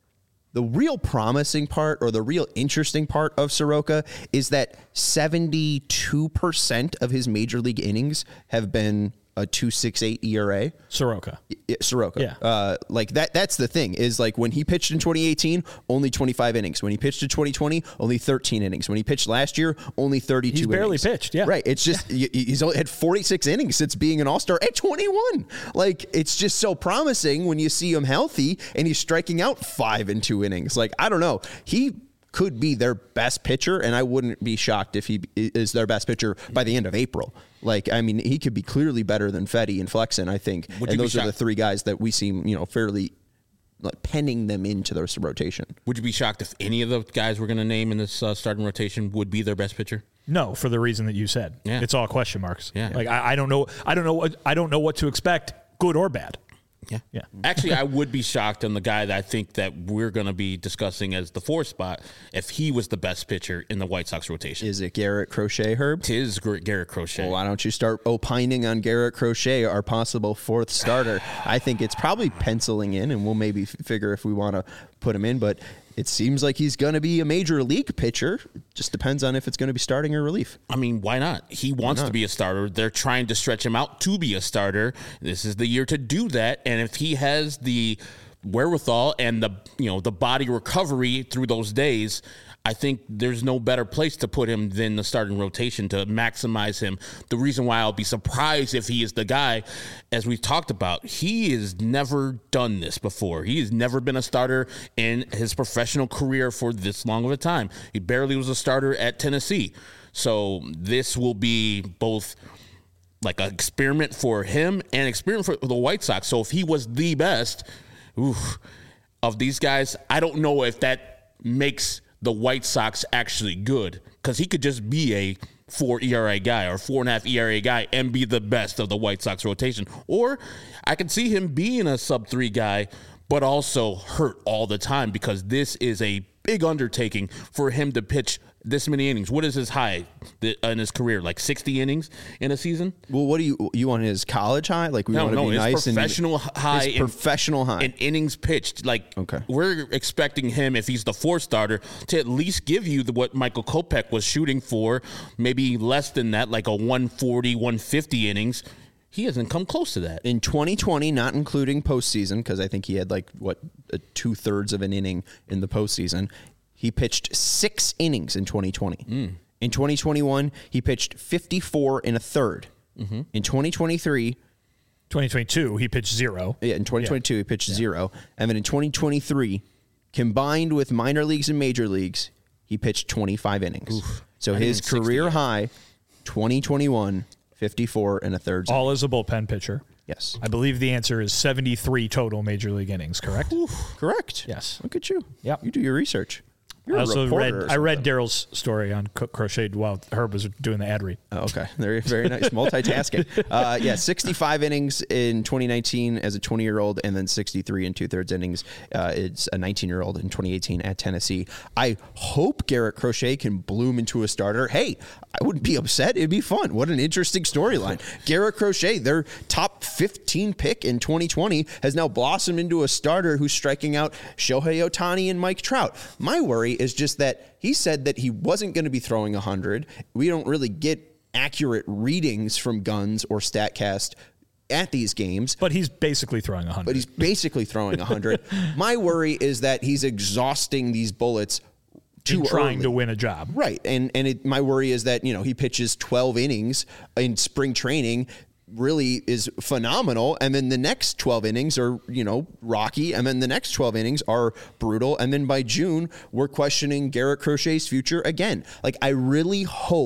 The real promising part or the real interesting part of Soroka is that seventy-two percent of his major league innings have been a two point six eight E R A.
Soroka.
Yeah, Soroka.
Yeah.
Uh, like that, that's the thing is like when he pitched in twenty eighteen, only twenty-five innings. When he pitched in twenty twenty, only thirteen innings. When he pitched last year, only thirty-two
He's barely
innings.
pitched, yeah.
Right. It's just, y- he's only had forty-six innings since being an all-star at twenty-one. Like, it's just so promising when you see him healthy and he's striking out five in two innings. Like, I don't know. He could be their best pitcher, and I wouldn't be shocked if he is their best pitcher by the end of April. Like, I mean, he could be clearly better than Fedde and Flexen, I think.
Would you
and
be
those are the
shocked?
three guys that we seem, you know, fairly like penning them into their rotation.
Would you be shocked if any of the guys we're going to name in this uh, starting rotation would be their best pitcher?
No, for the reason that you said.
Yeah.
It's all question marks.
Yeah.
Like I, I don't know. I don't know. What, I don't know what to expect, good or bad.
Yeah.
Yeah.
Actually, I would be shocked on the guy that I think that we're going to be discussing as the fourth spot if he was the best pitcher in the White Sox rotation.
Is it Garrett Crochet, Herb?
Tis Gar- Garrett Crochet.
Well, why don't you start opining on Garrett Crochet, our possible fourth starter? I think it's probably penciling in, and we'll maybe f- figure if we want to put him in, but it seems like he's going to be a major league pitcher. Just depends on if it's going to be starting or relief.
I mean, why not? He wants
not?
to be a starter. They're trying to stretch him out to be a starter. This is the year to do that. And if he has the wherewithal and the, you know, the body recovery through those days, I think there's no better place to put him than the starting rotation to maximize him. The reason why I'll be surprised if he is the guy, as we've talked about, he has never done this before. He has never been a starter in his professional career for this long of a time. He barely was a starter at Tennessee. So this will be both like an experiment for him and an experiment for the White Sox. So if he was the best oof, of these guys, I don't know if that makes the White Sox actually good, because he could just be a four E R A guy or four and a half E R A guy and be the best of the White Sox rotation. Or I could see him being a sub three guy, but also hurt all the time, because this is a big undertaking for him to pitch this many innings. What is his high in his career? Like sixty innings in a season?
Well, what do you you want his college high? Like we
No,
want to
no,
be
his
nice
professional
and
high.
his
in-
professional high.
in innings pitched. Like,
Okay.
we're expecting him, if he's the fourth starter, to at least give you the, what Michael Kopech was shooting for, maybe less than that, like a one forty, one fifty innings. He hasn't come close to that.
In twenty twenty, not including postseason, because I think he had like what uh, two thirds of an inning in the postseason. He pitched six innings in twenty twenty.
Mm.
In twenty twenty-one, he pitched fifty-four and a third.
Mm-hmm.
In twenty twenty-three,
twenty twenty-two, he pitched zero.
yeah, in twenty twenty-two, he pitched zero. And then in twenty twenty-three, combined with minor leagues and major leagues, he pitched twenty-five innings. So
Not
his
even sixty
career
yet.
high, twenty twenty-one, fifty-four and a third.
All as a bullpen pitcher.
Yes.
I believe the answer is seventy-three total major league innings, correct?
Correct.
Yes.
Look at you.
Yep.
You do your research. You're
I
a
also
reporter
read
or
I read
something.
Daryl's story on Co- Crochet while Herb was doing the ad read.
Oh, okay. Very, very nice. Multitasking. Uh, yeah, sixty-five innings in twenty nineteen as a twenty-year-old, and then sixty-three and two-thirds innings. Uh, it's a nineteen-year-old in twenty eighteen at Tennessee. I hope Garrett Crochet can bloom into a starter. Hey, I wouldn't be upset. It'd be fun. What an interesting storyline. Garrett Crochet, their top fifteen pick in twenty twenty, has now blossomed into a starter who's striking out Shohei Ohtani and Mike Trout. My worry is just that he said that he wasn't going to be throwing one hundred. We don't really get accurate readings from Guns or StatCast at these games.
But he's basically throwing one hundred.
But he's basically throwing one hundred. My worry is that he's exhausting these bullets too
in trying
early.
to win a job.
Right. And and it, my worry is that, you know, he pitches twelve innings in spring training, really is phenomenal, and then the next twelve innings are, you know, rocky, and then the next twelve innings are brutal, and then by June we're questioning Garrett Crochet's future again. Like, I really hope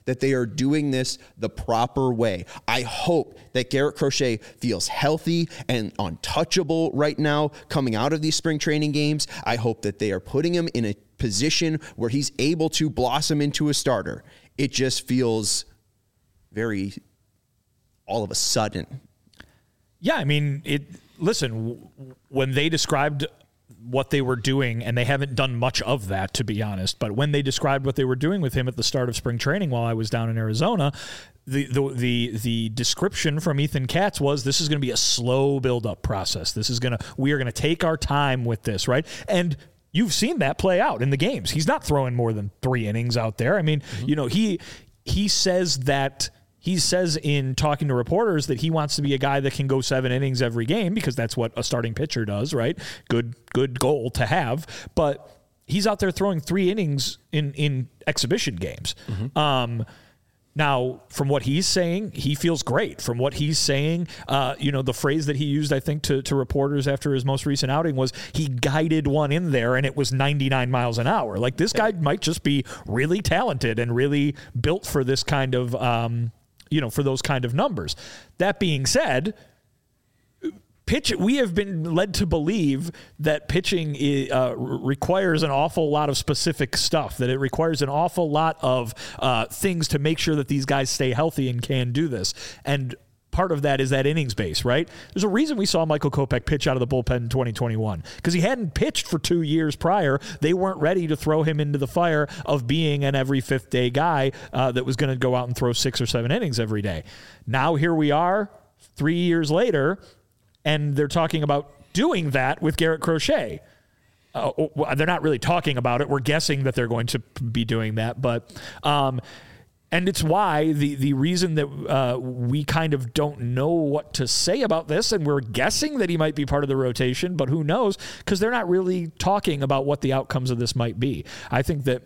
that they are doing this the proper way. I hope that Garrett Crochet feels healthy and untouchable right now coming out of these spring training games. I hope that they are putting him in a position where he's able to blossom into a starter. It just feels very all of a sudden.
Yeah, I mean, it. Listen, when they described what they were doing, and they haven't done much of that, to be honest, but when they described what they were doing with him at the start of spring training while I was down in Arizona, the the the, the description from Ethan Katz was, this is going to be a slow build-up process. This is going to, we are going to take our time with this, right? And you've seen that play out in the games. He's not throwing more than three innings out there. I mean, mm-hmm. you know, he he says that He says in talking to reporters that he wants to be a guy that can go seven innings every game because that's what a starting pitcher does, right? Good, good goal to have. But he's out there throwing three innings in, in exhibition games. Mm-hmm. Um, now, from what he's saying, he feels great. From what he's saying, uh, you know, the phrase that he used, I think, to, to reporters after his most recent outing was he guided one in there and it was ninety-nine miles an hour. Like, this guy might just be really talented and really built for this kind of, um, you know, for those kind of numbers. That being said, pitch, we have been led to believe that pitching uh, requires an awful lot of specific stuff, that it requires an awful lot of uh, things to make sure that these guys stay healthy and can do this. And part of that is that innings base, right? There's a reason we saw Michael Kopech pitch out of the bullpen in twenty twenty-one, because he hadn't pitched for two years prior. They weren't ready to throw him into the fire of being an every fifth day guy uh, that was going to go out and throw six or seven innings every day. Now here we are three years later, and they're talking about doing that with Garrett Crochet. Uh, they're not really talking about it. We're guessing that they're going to be doing that, but um, and it's why the, the reason that uh, we kind of don't know what to say about this, and we're guessing that he might be part of the rotation, but who knows, because they're not really talking about what the outcomes of this might be. I think that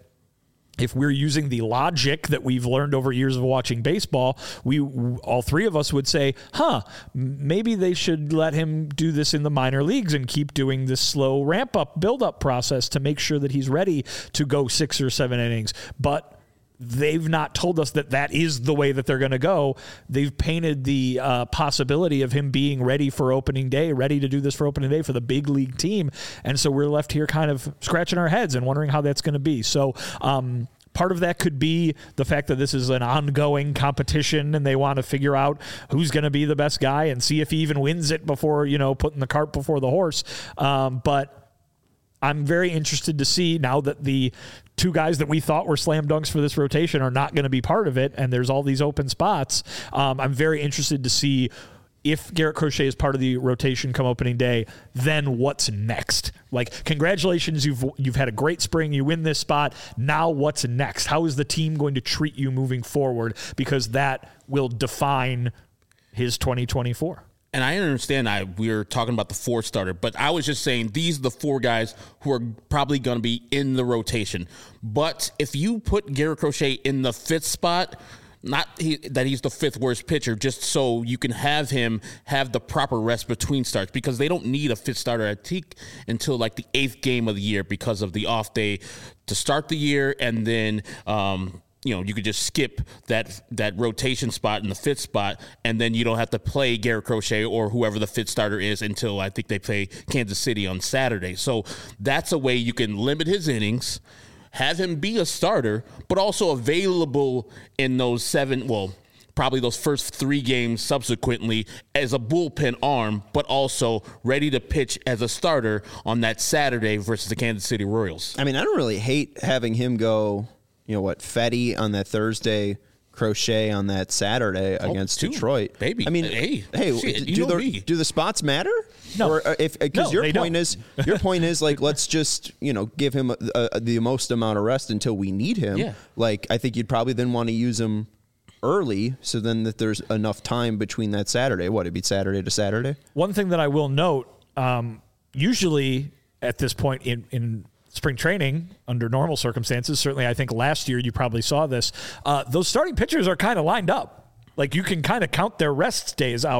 if we're using the logic that we've learned over years of watching baseball, we all three of us would say, huh, maybe they should let him do this in the minor leagues and keep doing this slow ramp-up, build-up process to make sure that he's ready to go six or seven innings. But they've not told us that that is the way that they're going to go. They've painted the uh, possibility of him being ready for opening day, ready to do this for opening day for the big league team. And so we're left here kind of scratching our heads and wondering how that's going to be. So um, part of that could be the fact that this is an ongoing competition and they want to figure out who's going to be the best guy and see if he even wins it before, you know, putting the cart before the horse. Um, but I'm very interested to see now that the two guys that we thought were slam dunks for this rotation are not going to be part of it, and there's all these open spots. Um, I'm very interested to see if Garrett Crochet is part of the rotation come opening day, then what's next? Like, congratulations, you've you've had a great spring, you win this spot. Now what's next? How is the team going to treat you moving forward? Because that will define his twenty twenty-four.
And I understand I we're talking about the four starter, but I was just saying these are the four guys who are probably going to be in the rotation. But if you put Garrett Crochet in the fifth spot, not he, that he's the fifth worst pitcher, just so you can have him have the proper rest between starts, because they don't need a fifth starter at Teak until like the eighth game of the year because of the off day to start the year, and then um, you know, you could just skip that that rotation spot in the fifth spot, and then you don't have to play Garrett Crochet or whoever the fifth starter is until I think they play Kansas City on Saturday. So that's a way you can limit his innings, have him be a starter, but also available in those seven, well, probably those first three games subsequently as a bullpen arm, but also ready to pitch as a starter on that Saturday versus the Kansas City Royals.
I mean, I don't really hate having him go, you know what, Fetty on that Thursday, Crochet on that Saturday oh, against two, Detroit.
Baby.
I mean,
hey,
hey
shit,
do, the, do the spots matter?
No.
Or if because
no,
your point
don't.
is your point is like, let's just, you know, give him a, a, the most amount of rest until we need him.
Yeah.
Like, I think you'd probably then want to use him early, so then that there's enough time between that Saturday. What, it'd be Saturday to Saturday?
One thing that I will note, um, usually at this point in, in spring training, under normal circumstances, certainly I think last year you probably saw this, uh, those starting pitchers are kind of lined up. Like, you can kind of count their rest days out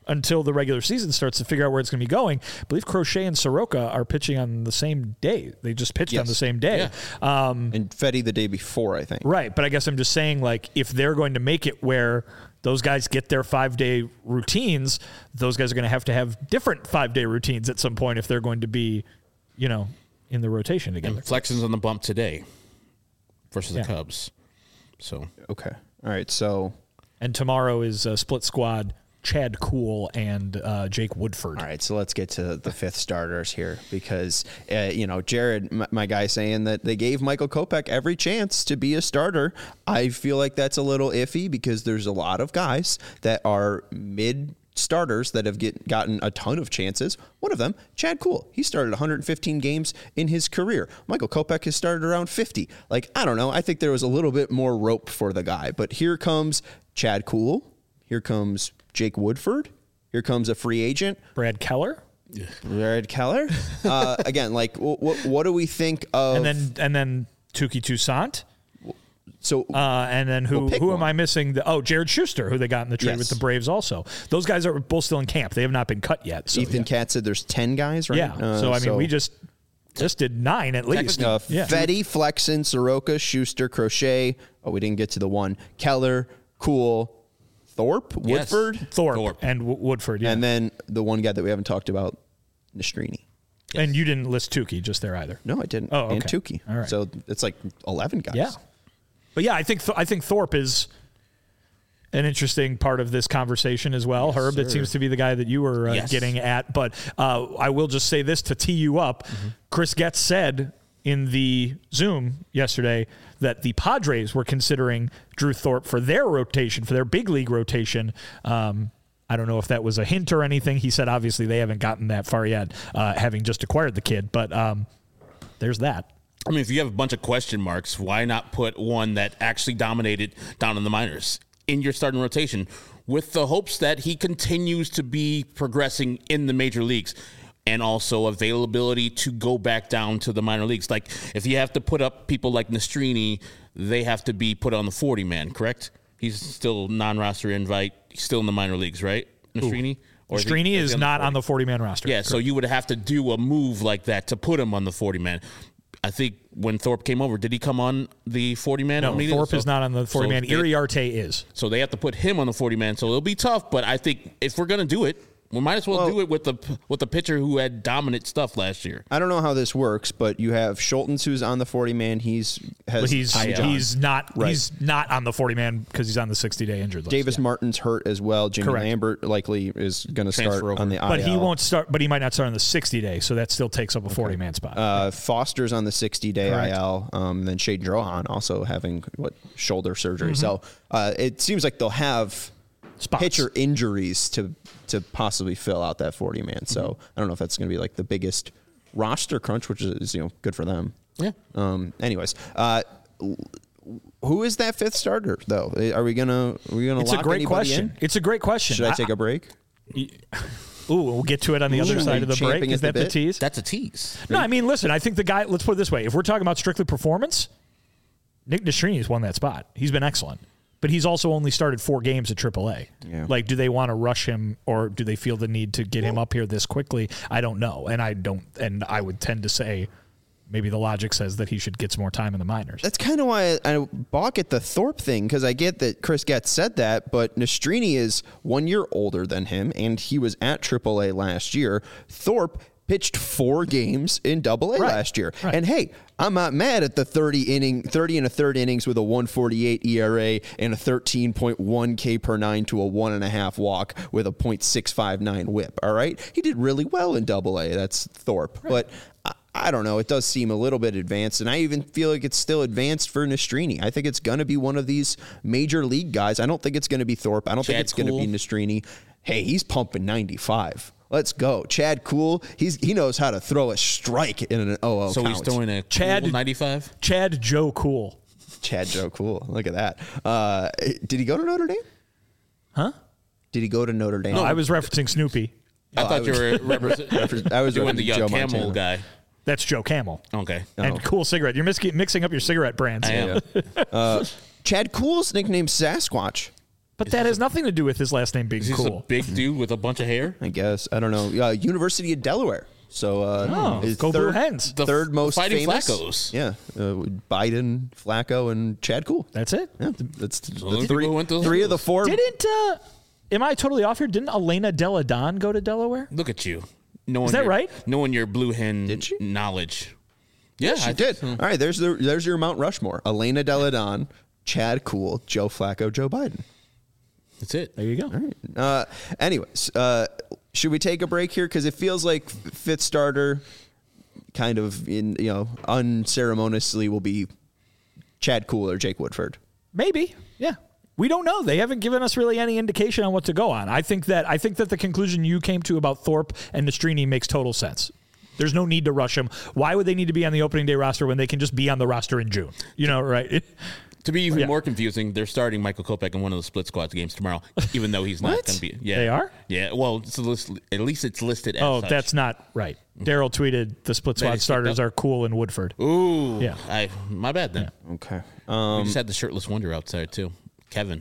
until the regular season starts to figure out where it's going to be going. I believe Crochet and Soroka are pitching on the same day. They just pitched
Yes.
on the same day.
Yeah.
Um,
And Fetty the day before, I think.
right. But I guess I'm just saying, like, if they're going to make it where those guys get their five-day routines, those guys are going to have to have different five-day routines at some point if they're going to be, you know, in the rotation together.
Flexion's on the bump today versus
Yeah.
the Cubs. So
Okay. All right. So,
And tomorrow is a split squad, Chad Kuhl and uh, Jake Woodford.
all right. So let's get to the fifth starters here because, uh, you know, Jared, my, my guy, saying that they gave Michael Kopech every chance to be a starter. I feel like that's a little iffy because there's a lot of guys that are mid starters that have get, gotten a ton of chances. One of them, Chad Kuhl. He started one hundred fifteen games in his career. Michael Kopech has started around fifty. Like, I don't know. I think there was a little bit more rope for the guy. But here comes Chad Kuhl. Here comes Jake Woodford. Here comes a free agent,
Brad Keller.
Brad Keller. Uh, again, like, w- w- what do we think of?
And then and then Tuki Toussaint.
so
Uh, and then who
Well, pick
who am
one.
I missing? The, oh, Jared Schuster, who they got in the trade
Yes.
with the Braves also. Those guys are both still in camp. They have not been cut yet. So,
Ethan
yeah.
Katz said there's ten guys, right?
Yeah.
Uh,
so, I mean, we just just did nine at least.
Uh,
yeah.
Fetty, Flexen, Soroka, Schuster, Crochet. Oh, we didn't get to the one. Keller, Kuhl, Thorpe,
Yes.
Woodford,
Thorpe,
Thorpe.
and w- Woodford. Yeah.
and
And,
then the one guy that we haven't talked about, Nastrini.
you didn't list Tuki just there either.
No, I didn't.
Oh,
And
okay.
Tukey.
All right.
So it's like eleven guys.
Yeah. But yeah, I think Th- I think Thorpe is an interesting part of this conversation as well. Herb, that seems to be the guy that you were uh,
Yes.
getting at. But uh, I will just say this to tee you up.
Mm-hmm.
Chris Getz said in the Zoom yesterday that the Padres were considering Drew Thorpe for their rotation, for their big league rotation. Um, I don't know if that was a hint or anything. He said obviously they haven't gotten that far yet, uh, having just acquired the kid. But um, there's that.
I mean, if you have a bunch of question marks, why not put one that actually dominated down in the minors in your starting rotation with the hopes that he continues to be progressing in the major leagues and also availability to go back down to the minor leagues? Like, if you have to put up people like Nastrini, they have to be put on the forty-man, correct? He's still non-roster invite. He's still in the minor leagues, right, Nastrini? Or he-
Strini
he
is
on the
not
forty?
on the forty-man roster.
Yeah, so you would have to do a move like that to put him on the forty-man. I think when Thorpe came over, did he come on the forty-man?
No, Thorpe is not on the forty-man.
So they,
Iriarte is.
so they have to put him on the forty-man. So it'll be tough, but I think if we're going to do it, we might as well,
Well-
do it with the with the pitcher who had dominant stuff last year.
I don't know how this works, but you have Schultens who's on the forty man. He's has
But he's
Tommy John.
he's not
Right.
he's not on the forty-man because he's on the sixty-day injured list.
Davis
Yeah.
Martin's hurt as well. Jimmy
Correct.
Lambert likely is going to start
Transfer over.
on the I L.
But he won't start. But he might not start on the sixty-day, so that still takes up a forty-man spot.
Uh, Foster's on the sixty-day
Correct.
I L. Um, then Shade Drohan also having what shoulder surgery.
Mm-hmm.
So uh, it seems like they'll have
Spots.
pitcher injuries to to possibly fill out that forty man. So
Mm-hmm.
I don't know if that's going to be like the biggest roster crunch, which is you know good for them.
Yeah.
Um. Anyways, uh, who is that fifth starter though? Are we gonna are we gonna
It's
lock
a great
anybody
question.
in?
It's a great question.
Should I take a break?
Ooh, we'll get to it on the other
Ooh,
side of the break.
champing
Is
at the
that the
bit?
tease?
That's a tease.
No, I mean, listen. I think the guy. Let's put it this way: if we're talking about strictly performance, Nick Nastrini won that spot. He's been excellent, but he's also only started four games at triple A.
Yeah.
Like, do they want to rush him, or do they feel the need to get him up here this quickly? I don't know, and I don't. And I would tend to say maybe the logic says that he should get some more time in the minors.
That's kind of why I, I balk at the Thorpe thing, because I get that Chris Getz said that, but Nastrini is one year older than him, and he was at triple A last year. Thorpe pitched four games in double A
Right.
last year.
Right.
And hey, I'm not mad at the thirty inning, thirty and a third innings with a one forty-eight E R A and a thirteen point one K per nine to a one and a half walk with a point six five nine whip. All right. He did really well in double A. That's Thorpe. Right. But I, I don't know. It does seem a little bit advanced, and I even feel like it's still advanced for Nastrini. I think it's going to be one of these major league guys. I don't think it's going to be Thorpe. I don't think
Chad
it's going to
Kuhl.
be Nastrini. Hey, he's pumping ninety-five. Let's go. Chad Kuhl, he's he knows how to throw a strike in an O O
So
count.
he's throwing a
Chad-
cool ninety-five.
Chad Joe Cool.
Chad Joe Cool. Look at that. Uh, did he go to Notre Dame?
Huh?
Did he go to Notre Dame?
No, I was referencing Snoopy.
I
Oh,
thought
I
you
was-
were represent-
I was
doing the
referencing
uh,
Joe
camel
Montana.
guy.
That's Joe Camel.
Okay.
And Cool Cigarette. You're mis- mixing up your cigarette brands.
I am.
Chad Kuhl's nicknamed Sasquatch.
But that has nothing to do with his last name being
Is he
cool.
a big dude with a bunch of hair?
I guess. I don't know. Uh, University of Delaware. So uh,
Oh,
is
go Blue
third,
Hens.
The
third most
Fighting
famous.
Flaccos.
Yeah, uh, Biden, Flacco, and Chad Cool.
That's it.
Yeah, that's the
the
three,
people who went to those
three of the four.
Didn't, uh, am I totally off here? Didn't Elena Deladon go to Delaware?
Look at you. Knowing
Is that
your,
right?
Knowing your Blue Hen
Did she?
knowledge. Yeah,
she
I
did.
think so.
All right, there's the there's your Mount Rushmore: Elena Deladon, Chad Cool, Joe Flacco, Joe Biden.
That's it.
There you go.
All right. Uh, anyways, uh, should we take a break here? Because it feels like fifth starter, kind of in you know unceremoniously, will be Chad Cool or Jake Woodford.
Maybe. Yeah. We don't know. They haven't given us really any indication on what to go on. I think that I think that the conclusion you came to about Thorpe and Nastrini makes total sense. There's no need to rush them. Why would they need to be on the opening day roster when they can just be on the roster in June? You know, right?
To be even
Yeah.
more confusing, they're starting Michael Kopech in one of the split squads games tomorrow, even though he's not
What?
going to be. Yeah,
They are?
Yeah. Well, it's a list, at least it's listed as
Oh,
such.
that's not right. Daryl tweeted the split
That
squad
is
starters
picked up.
are Cool and Woodford.
Ooh.
Yeah.
I, my bad then.
Okay.
We
Um,
just had the shirtless wonder outside, too. Kevin.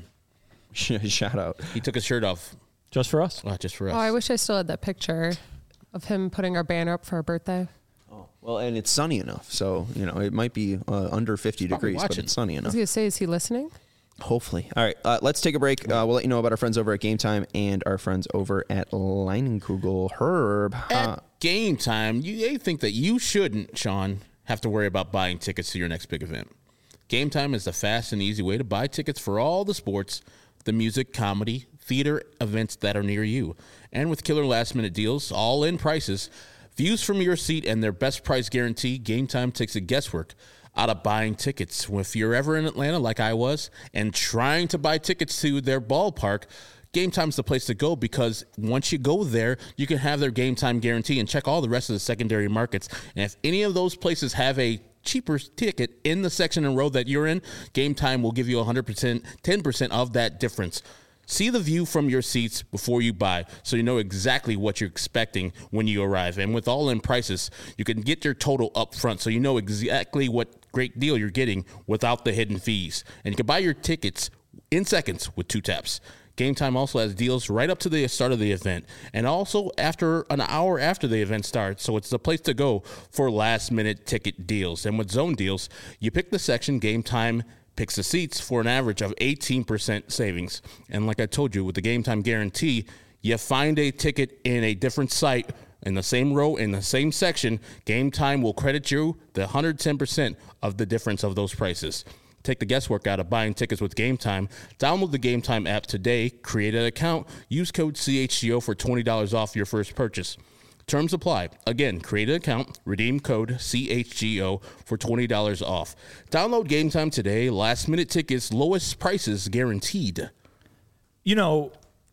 shout out.
He took his shirt off
Just for us.
oh, just for us.
Oh, I wish I still had that picture of him putting our banner up for our birthday.
Oh, well, and it's sunny enough, so you know it might be uh, under fifty
probably
degrees, but
watching.
it's sunny
I was
enough.
going to say, is he listening?
Hopefully. All right, uh, let's take a break. Uh, we'll let you know about our friends over at Game Time and our friends over at Leinenkugel. Herb.
At
Uh,
game time, you they think that you shouldn't, Sean, have to worry about buying tickets to your next big event. Game time is the fast and easy way to buy tickets for all the sports, the music, comedy, theater events that are near you. And with killer last minute deals, all in prices, views from your seat, and their best price guarantee, Game Time takes the guesswork out of buying tickets. If you're ever in Atlanta like I was and trying to buy tickets to their ballpark, Game Time's the place to go, because once you go there, you can have their Game Time guarantee and check all the rest of the secondary markets. And if any of those places have a cheaper ticket in the section and row that you're in, Game Time will give you one hundred percent, ten percent of that difference. See the view from your seats before you buy, so you know exactly what you're expecting when you arrive. And with all-in prices, you can get your total up front, so you know exactly what great deal you're getting without the hidden fees. And you can buy your tickets in seconds with two taps. Game Time also has deals right up to the start of the event, and also after an hour after the event starts, so it's the place to go for last-minute ticket deals. And with zone deals, you pick the section, Game Time picks the seats for an average of eighteen percent savings. And like I told you, with the Game Time guarantee, you find a ticket in a different site in the same row, in the same section, Game Time will credit you the one hundred ten percent of the difference of those prices. Take the guesswork out of buying tickets with Game Time. Download the Game Time app today, create an account, use code C H G O for twenty dollars off your first purchase. Terms apply. Again, create an account, redeem code C H G O for twenty dollars off. Download Game Time today. Last minute tickets, lowest prices guaranteed.
You know,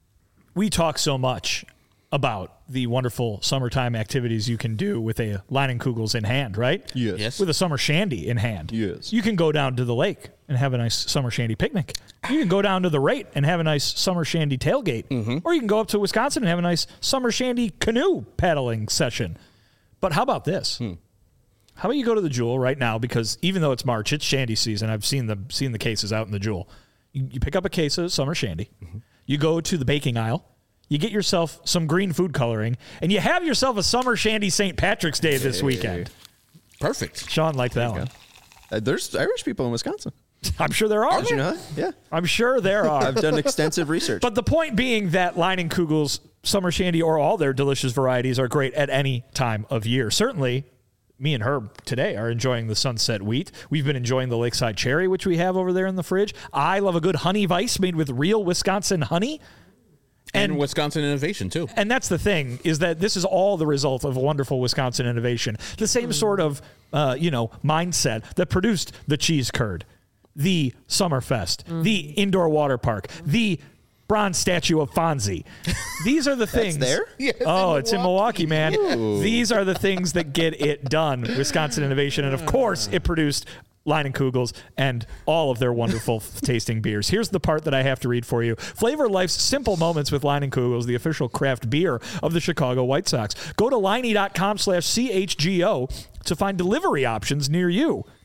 we talk so much about the wonderful summertime activities you can do with a Leinenkugels in hand, right?
Yes.
Yes.
With a summer shandy in hand.
Yes.
You can go down to the lake and have a nice summer shandy picnic. You can go down to the Rate and have a nice summer shandy tailgate.
Mm-hmm.
Or you can go up to Wisconsin and have a nice summer shandy canoe paddling session. But how about this?
Hmm.
How about you go to the Jewel right now, because even though it's March, it's shandy season. I've seen the seen the cases out in the Jewel. You, you pick up a case of summer shandy.
Mm-hmm.
You go to the baking aisle. You get yourself some green food coloring, and you have yourself a summer shandy Saint Patrick's Day this weekend.
Perfect.
Sean liked that one.
uh, there's Irish people in Wisconsin.
I'm sure there are.
Did you know that? Yeah.
I'm sure there are.
I've done extensive research.
But the point being that Leinenkugel's summer shandy, or all their delicious varieties, are great at any time of year. Certainly, me and Herb today are enjoying the Sunset Wheat. We've been enjoying the Lakeside Cherry, which we have over there in the fridge. I love a good honey vice made with real Wisconsin honey.
And,
And
Wisconsin innovation, too.
And that's the thing, is that this is all the result of wonderful Wisconsin innovation. The same sort of, uh, you know, mindset that produced the cheese curd, the Summerfest, mm. the indoor water park, the bronze statue of Fonzie. These are the things.
That's there?
Yes,
oh,
in
it's in Milwaukee, man. Ooh. These are the things that get it done. Wisconsin innovation. And of course, it produced Leinenkugels and all of their wonderful tasting beers. Here's the part that I have to read for you. Flavor life's simple moments with Leinenkugels, the official craft beer of the Chicago White Sox. Go to Leinie.com slash CHGO to find delivery options near you.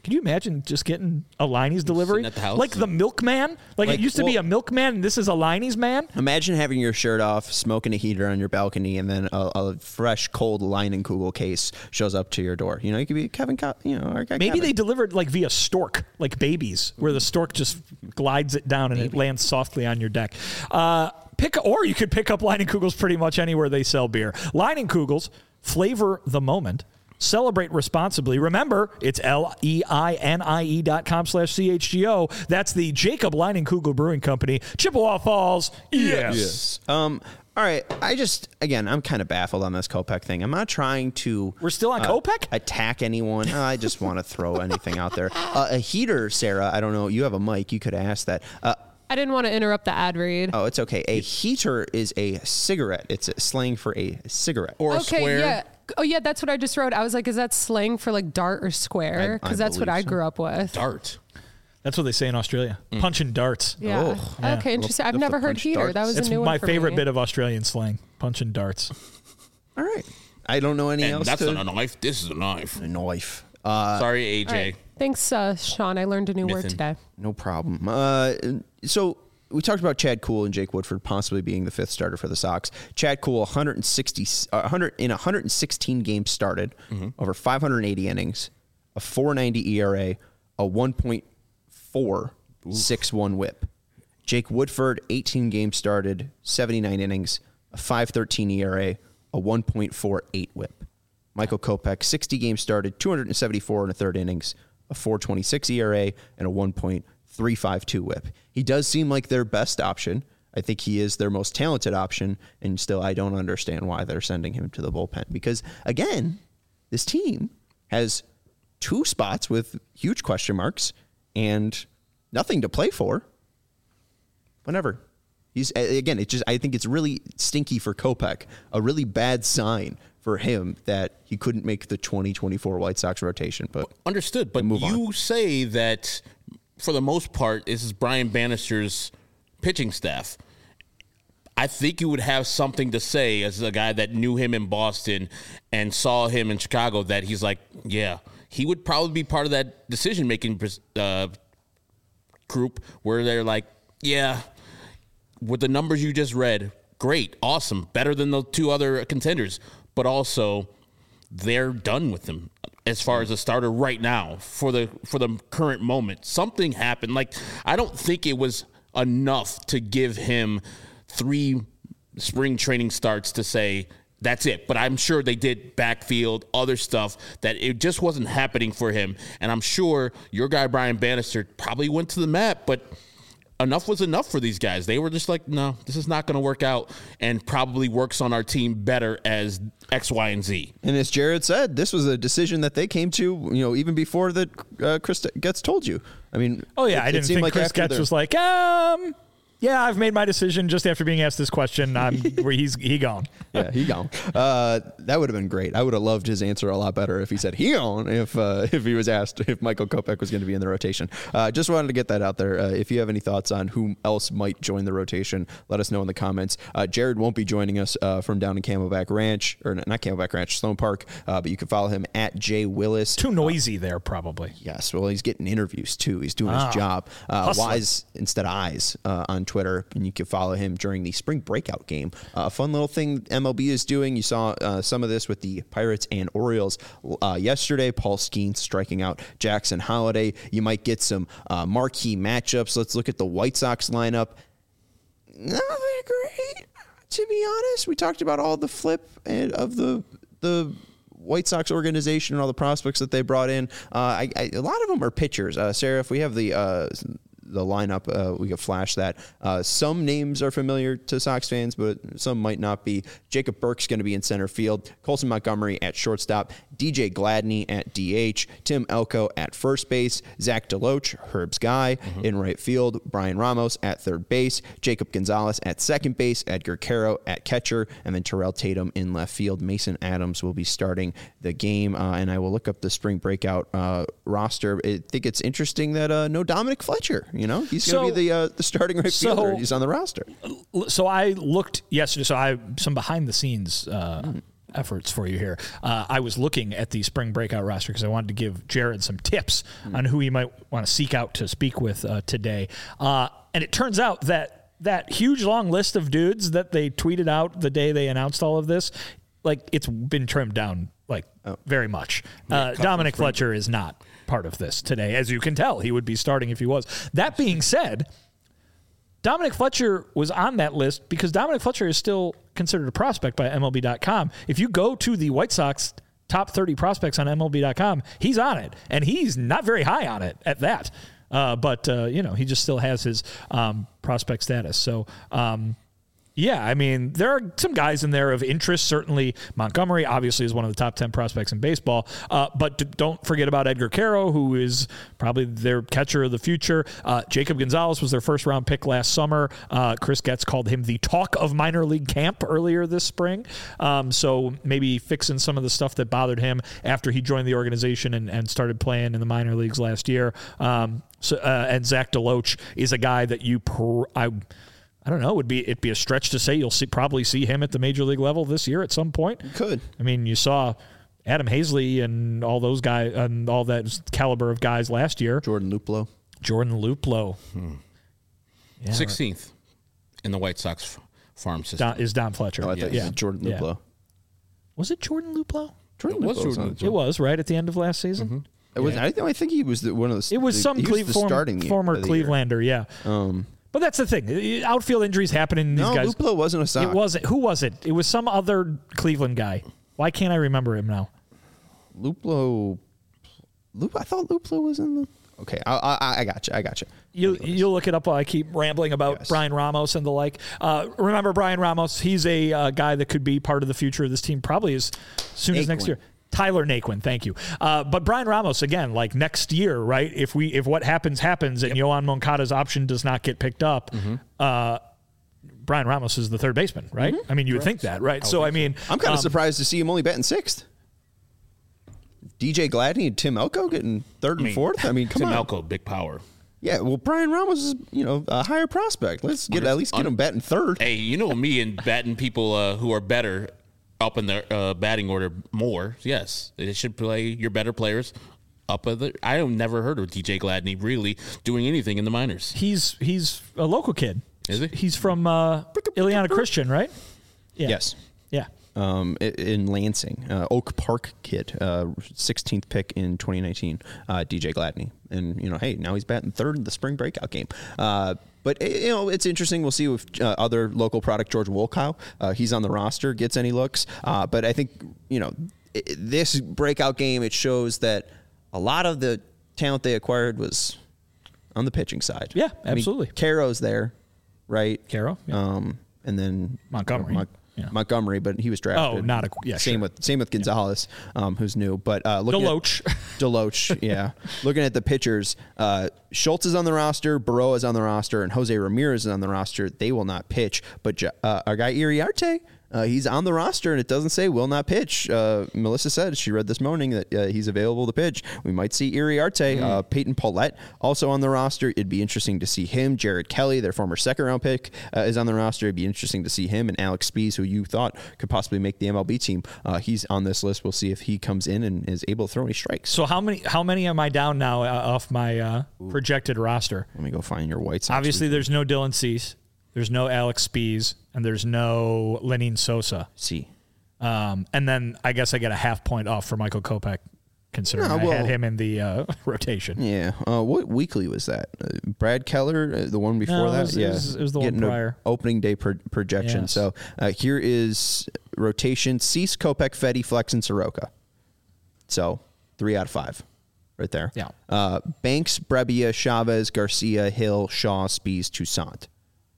Can you imagine just getting a Liney's delivery?
At the house.
Like the milkman? Like,
Like,
it used to be
well-
a milkman, and this is a Liney's man?
Imagine having your shirt off, smoking a heater on your balcony, and then a, a fresh, cold Leinenkugel case shows up to your door. You know, you could be Kevin, Co- you know, our guy
Maybe
Kevin.
they delivered like via stork, like babies, where the stork just glides it down and it lands softly on your deck. Uh, pick, or you could pick up Leinenkugels pretty much anywhere they sell beer. Leinenkugels, flavor the moment. Celebrate responsibly. Remember, it's L E I N I E dot com slash C H G O. That's the Jacob Leinenkugel Brewing Company, Chippewa Falls. Yes.
Yes. Um. All right. I just, again, I'm kind of baffled on this Kopech thing. I'm not trying to.
We're still on
uh,
Kopech?
Attack anyone. Uh, I just want to throw anything out there. Uh, a heater, Sarah. I don't know. You have a mic. You could ask that. Uh,
I didn't want to interrupt the ad read.
oh, it's okay. A heater is a cigarette. It's a slang for a cigarette.
Or a
Okay,
square.
yeah. Oh, yeah, that's what I just wrote. I was like, is that slang for like dart or square?
I- I
Because that's what
believe
I
so.
grew up with.
Dart.
That's what they say in Australia. Punching darts.
Yeah.
Oh,
yeah.
Okay, interesting. I've
Little-
never heard
punch
heater.
darts.
That was
It's
a new one
my
for
favorite
me.
bit of Australian slang, punching darts.
All right. I don't know any
And
else.
that's
to,
not a knife. This is a knife.
a knife. Uh,
Sorry, A J.
All right. Thanks, uh, Sean. I learned a new word
Mythin.
today.
No problem. Uh, so we talked about Chad Kuhl and Jake Woodford possibly being the fifth starter for the Sox. Chad Kuhl, one hundred sixty, uh, one hundred in one hundred sixteen games started, over five hundred eighty innings, a four ninety E R A, a one point four six one WHIP. Jake Woodford, eighteen games started, seventy-nine innings, a five thirteen E R A, a one point four eight WHIP. Michael Kopech, sixty games started, two hundred seventy-four and a third innings, a four twenty-six E R A, and a one point three five two WHIP. He does seem like their best option. I think he is their most talented option, and still I don't understand why they're sending him to the bullpen. Because, again, this team has two spots with huge question marks and nothing to play for. Whatever. He's again, it just I think it's really stinky for Kopech, a really bad sign for him that he couldn't make the twenty twenty-four White Sox rotation. But
Understood, but
move
you
on.
say that for the most part, this is Brian Bannister's pitching staff. I think you would have something to say as a guy that knew him in Boston and saw him in Chicago that he's like, yeah, he would probably be part of that decision-making uh, group where they're like, yeah, with the numbers you just read, great, awesome, better than the two other contenders, but also they're done with him as far as a starter right now for the for the current moment. Something happened. Like, I don't think it was enough to give him three spring training starts to say that's it. But I'm sure they did backfield, other stuff that it just wasn't happening for him. And I'm sure your guy Brian Bannister probably went to the mat, but enough was enough for these guys. They were just like, no, this is not going to work out, and probably works on our team better as X, Y, and Z.
And as Jared said, this was a decision that they came to, you know, even before that uh, Chris Getz told you. I mean,
Oh, yeah.
it-
I
it
didn't
seemed
think
like
Chris
after
Getz
their-
was like, um, yeah, I've made my decision just after being asked this question. I'm where he's he gone.
Yeah, he gone. Uh, that would have been great. I would have loved his answer a lot better if he said he gone. If uh, if he was asked if Michael Kopech was going to be in the rotation. Uh, just wanted to get that out there. Uh, if you have any thoughts on who else might join the rotation, let us know in the comments. Uh, Jared won't be joining us uh, from down in Camelback Ranch, or not Camelback Ranch, Sloan Park. Uh, but you can follow him at Jay Willis.
Too noisy there, probably.
Yes, well, he's getting interviews too. He's doing
Ah,
his job. Uh,
hustler.
Wise instead of eyes uh, on Twitter, and you can follow him during the spring breakout game. Uh, a fun little thing M L B is doing. You saw uh, some of this with the Pirates and Orioles uh, yesterday. Paul Skeens striking out Jackson Holiday. You might get some uh, marquee matchups. Let's look at the White Sox lineup. Not very great, to be honest. We talked about all the flip and of the the. White Sox organization and all the prospects that they brought in. Uh, I, I, a lot of them are pitchers. Uh, Sarah, if we have the uh, the lineup, uh, we could flash that. Uh, some names are familiar to Sox fans, but some might not be. Jacob Burke's going to be in center field. Colson Montgomery at shortstop. D J Gladney at D H. Tim Elko at first base. Zach DeLoach, Herb's guy, mm-hmm. in right field. Brian Ramos at third base. Jacob Gonzalez at second base. Edgar Caro at catcher. And then Terrell Tatum in left field. Mason Adams will be starting the game. Uh, and I will look up the spring breakout uh, roster. I think it's interesting that uh, no Dominic Fletcher. You know, he's
So-
going to be the uh, the starting right
so-
fielder. He's on the roster.
So I looked yesterday. So I some behind the scenes uh, efforts for you here. Uh, I was looking at the spring breakout roster because I wanted to give Jared some tips mm. on who he might want to seek out to speak with uh, today. Uh, and it turns out that that huge long list of dudes that they tweeted out the day they announced all of this, like it's been trimmed down like oh. very much. Uh, Dominic Fletcher is not part of this today. As you can tell, he would be starting if he was. That being said, Dominic Fletcher was on that list because Dominic Fletcher is still considered a prospect by M L B dot com. If you go to the White Sox top thirty prospects on M L B dot com, he's on it, and he's not very high on it at that. Uh, but, uh, you know, he just still has his um, prospect status. So, um, yeah, I mean, there are some guys in there of interest. Certainly, Montgomery obviously is one of the top ten prospects in baseball. Uh, but d- don't forget about Edgar Caro, who is probably their catcher of the future. Uh, Jacob Gonzalez was their first-round pick last summer. Uh, Chris Getz called him the talk of minor league camp earlier this spring. Um, so maybe fixing some of the stuff that bothered him after he joined the organization and, and started playing in the minor leagues last year. Um, so uh, and Zach DeLoach is a guy that you pr- – I. I don't know. Would be it'd be a stretch to say you'll see probably see him at the major league level this year at some point.
Could.
I mean, you saw Adam Hazley and all those guys and all that caliber of guys last year.
Jordan Luplow.
Jordan Luplow.
Hmm. Yeah, sixteenth right. in the White Sox farm system
Don, is Don Fletcher.
Oh, I thought
yeah.
you said Jordan Luplow. Yeah.
Was it Jordan Luplow?
Jordan
it was
Luplow
Jordan.
It was right at the end of last season.
Mm-hmm. It was. Yeah. I, I think he was the, one of the.
It was
the,
some Cle-
was
form,
starting
former Clevelander.
Year.
Yeah.
Um.
But that's the thing. Outfield injuries happen in these
no,
guys.
No, Luplow wasn't a Sox.
It wasn't. Who was it? It was some other Cleveland guy. Why can't I remember him now?
Luplow. Lup, I thought Luplow was in the. Okay, I, I, I got you. I got you.
You you'll look it up while I keep rambling about yes. Brian Ramos and the like. Uh, remember Brian Ramos? He's a uh, guy that could be part of the future of this team probably as soon Naquin. as next year. Tyler Naquin, thank you. Uh, but Brian Ramos, again, like next year, right? If we if what happens happens and yep. Yoan Moncada's option does not get picked up, mm-hmm. uh, Brian Ramos is the third baseman, right? Mm-hmm. I mean, you would think that, right? I so I mean,
so. I'm kind of
um,
surprised to see him only batting sixth. D J Gladney and Tim Elko getting third and I mean, fourth. I mean, come
Tim
on.
Tim Elko, big power.
Yeah, well, Brian Ramos is, you know, a higher prospect. Let's get at least get him batting third.
Hey, you know me and batting people uh, who are better up in their uh, batting order more. Yes, they should play your better players up. Of the, I have never heard of D J Gladney really doing anything in the minors.
He's he's a local kid.
Is he?
He's from uh, Ileana Christian, right?
Yeah. Yes.
Yeah.
Um, in Lansing, uh, Oak Park kid, uh, sixteenth pick in twenty nineteen, uh, D J Gladney. And, you know, hey, now he's batting third in the spring breakout game. Uh, but, you know, it's interesting. We'll see if uh, other local product, George Wolkow, uh, he's on the roster, gets any looks. Uh, but I think, you know, it, this breakout game, it shows that a lot of the talent they acquired was on the pitching side.
Yeah, absolutely.
I mean, Caro's there, right?
Caro, yeah.
Um, and then
Montgomery.
You know, Mon- Yeah. Montgomery, but he was drafted.
Oh, not a yeah.
Same
sure.
with same with Gonzalez, yeah. um, who's new. But uh, looking
Deloach,
at, Deloach, yeah. Looking at the pitchers, uh, Schultz is on the roster, Baroa is on the roster, and Jose Ramirez is on the roster. They will not pitch, but uh, our guy Iriarte. Uh, he's on the roster, and it doesn't say will not pitch. Uh, Melissa said she read this morning that uh, he's available to pitch. We might see Iriarte. Mm. Uh, Peyton Paulette also on the roster. It'd be interesting to see him. Jared Kelly, their former second-round pick, uh, is on the roster. It'd be interesting to see him. And Alex Spees, who you thought could possibly make the M L B team, uh, he's on this list. We'll see if he comes in and is able to throw any strikes.
So how many how many am I down now uh, off my uh, projected roster?
Let me go find your White Sox.
Obviously, there's no Dylan Cease. There's no Alex Spees, and there's no Lenin Sosa.
See.
Um, and then I guess I get a half point off for Michael Kopech, considering no, well, I had him in the uh, rotation.
Yeah. Uh, what weekly was that? Uh, Brad Keller, uh, the one before
no,
that?
It was,
yeah.
It was, it was the one prior.
Opening day pro- projection. Yes. So uh, here is rotation. Cease, Kopech, Fetty, Flex, and Soroka. So three out of five. Right there.
Yeah.
Uh, Banks, Brebbia, Chavez, Garcia, Hill, Shaw, Spees, Toussaint.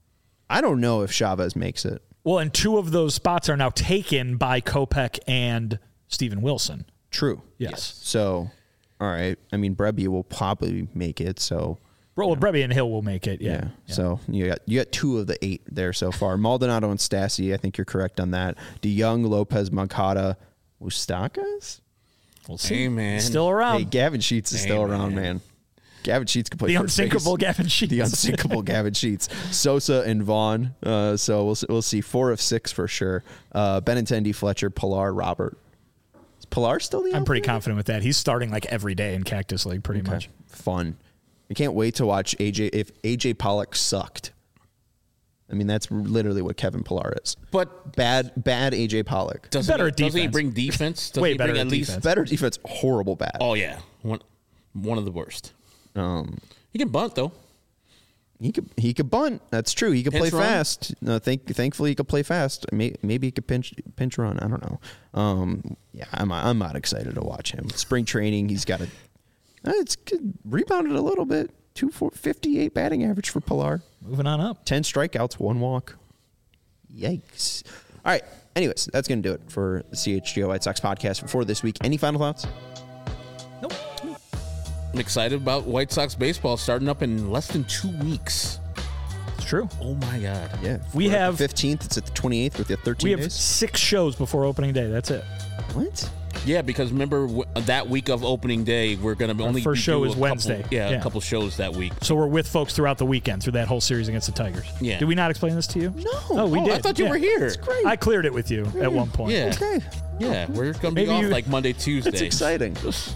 I don't know if Chavez makes it.
Well, and two of those spots are now taken by Kopech and Steven Wilson.
True.
Yes.
yes. So, all right. I mean, Brebbia will probably make it. So,
well, Brebbia and Hill will make it. Yeah.
yeah.
yeah.
So you got you got two of the eight there so far. Maldonado and Stassi. I think you're correct on that. DeYoung, Lopez, Moncada, Moustakas.
We'll see.
Hey, man.
Still around.
Hey, Gavin Sheets is
hey,
still
man.
around, man. Gavin Sheets could play
The
first
unsinkable
base.
Gavin Sheets.
The unsinkable Gavin Sheets. Sosa and Vaughn. Uh, so we'll we'll see four of six for sure. Uh, Benintendi, Fletcher, Pilar, Robert. Is Pilar still the?
I'm pretty
outfielder?
confident with that. He's starting like every day in Cactus League, pretty
Okay.
much.
Fun. I can't wait to watch A J. If A J Pollock sucked, I mean that's literally what Kevin Pilar is.
But
Bad, bad A J Pollock.
doesn't
Better
he,
at
doesn't he
defense.
bring defense? Doesn't
Way
he
better
bring
at
at least?
defense.
Better defense, horrible bad.
Oh yeah, one one of the worst.
Um,
He can bunt though.
he could he could bunt. That's true. He could
Pinch
play
run?
fast. No, thank, thankfully he could play fast. May, maybe he could pinch pinch run. I don't know. Um, yeah, I'm I'm not excited to watch him. Spring training, he's got a. Uh, it's good. Rebounded a little bit. two fifty-eight batting average for Pilar.
Moving on up.
ten strikeouts, one walk. Yikes. All right. Anyways, that's going to do it for the C H G O White Sox podcast for this week. Any final thoughts?
Nope.
I'm excited about White Sox baseball starting up in less than two weeks.
It's true.
Oh my god.
Yeah.
We
we're at
have-
the fifteenth. It's at the twenty-eighth with the thirteen
We have
days.
six shows before opening day. That's it.
What?
Yeah, because remember w- that week of opening day, we're gonna only
first
do
show
a
is
couple-
Wednesday.
Yeah,
Yeah.
a couple shows that week.
So we're with folks throughout the weekend through that whole series against the Tigers.
Yeah.
Did we not explain this to you?
No.
Oh, we
Oh,
did.
I thought you
Yeah.
were here.
It's great.
I cleared it with you at one point.
Yeah.
Okay.
Yeah, we're gonna be
Maybe
off
you-
like Monday, Tuesday,
That's exciting.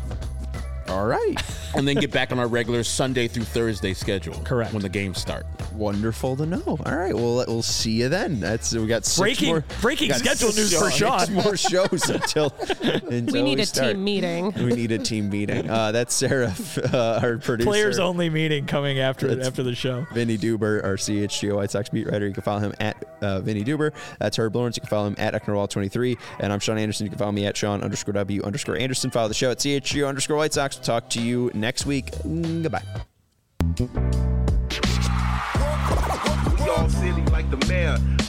All right.
and then get back on our regular Sunday through Thursday schedule.
Correct.
When the games start.
Wonderful to know. All right. Well, we'll see you then. That's we got six
Breaking-
more,
breaking
we got
schedule
six
news for Sean.
more shows until, until
We need a
start.
team meeting.
We need a team meeting. Uh, that's Sarah, uh, our producer.
Players only meeting coming after
That's-
after the show.
Vinny Duber, our C H G O White Sox beat writer. You can follow him at uh, Vinny Duber. That's Herb Lawrence. You can follow him at Ecknerwall twenty-three. And I'm Sean Anderson. You can follow me at Sean underscore W underscore Anderson. Follow the show at C H G O underscore White Sox. We'll talk to you next week. Mm, goodbye.
We all silly like the mayor.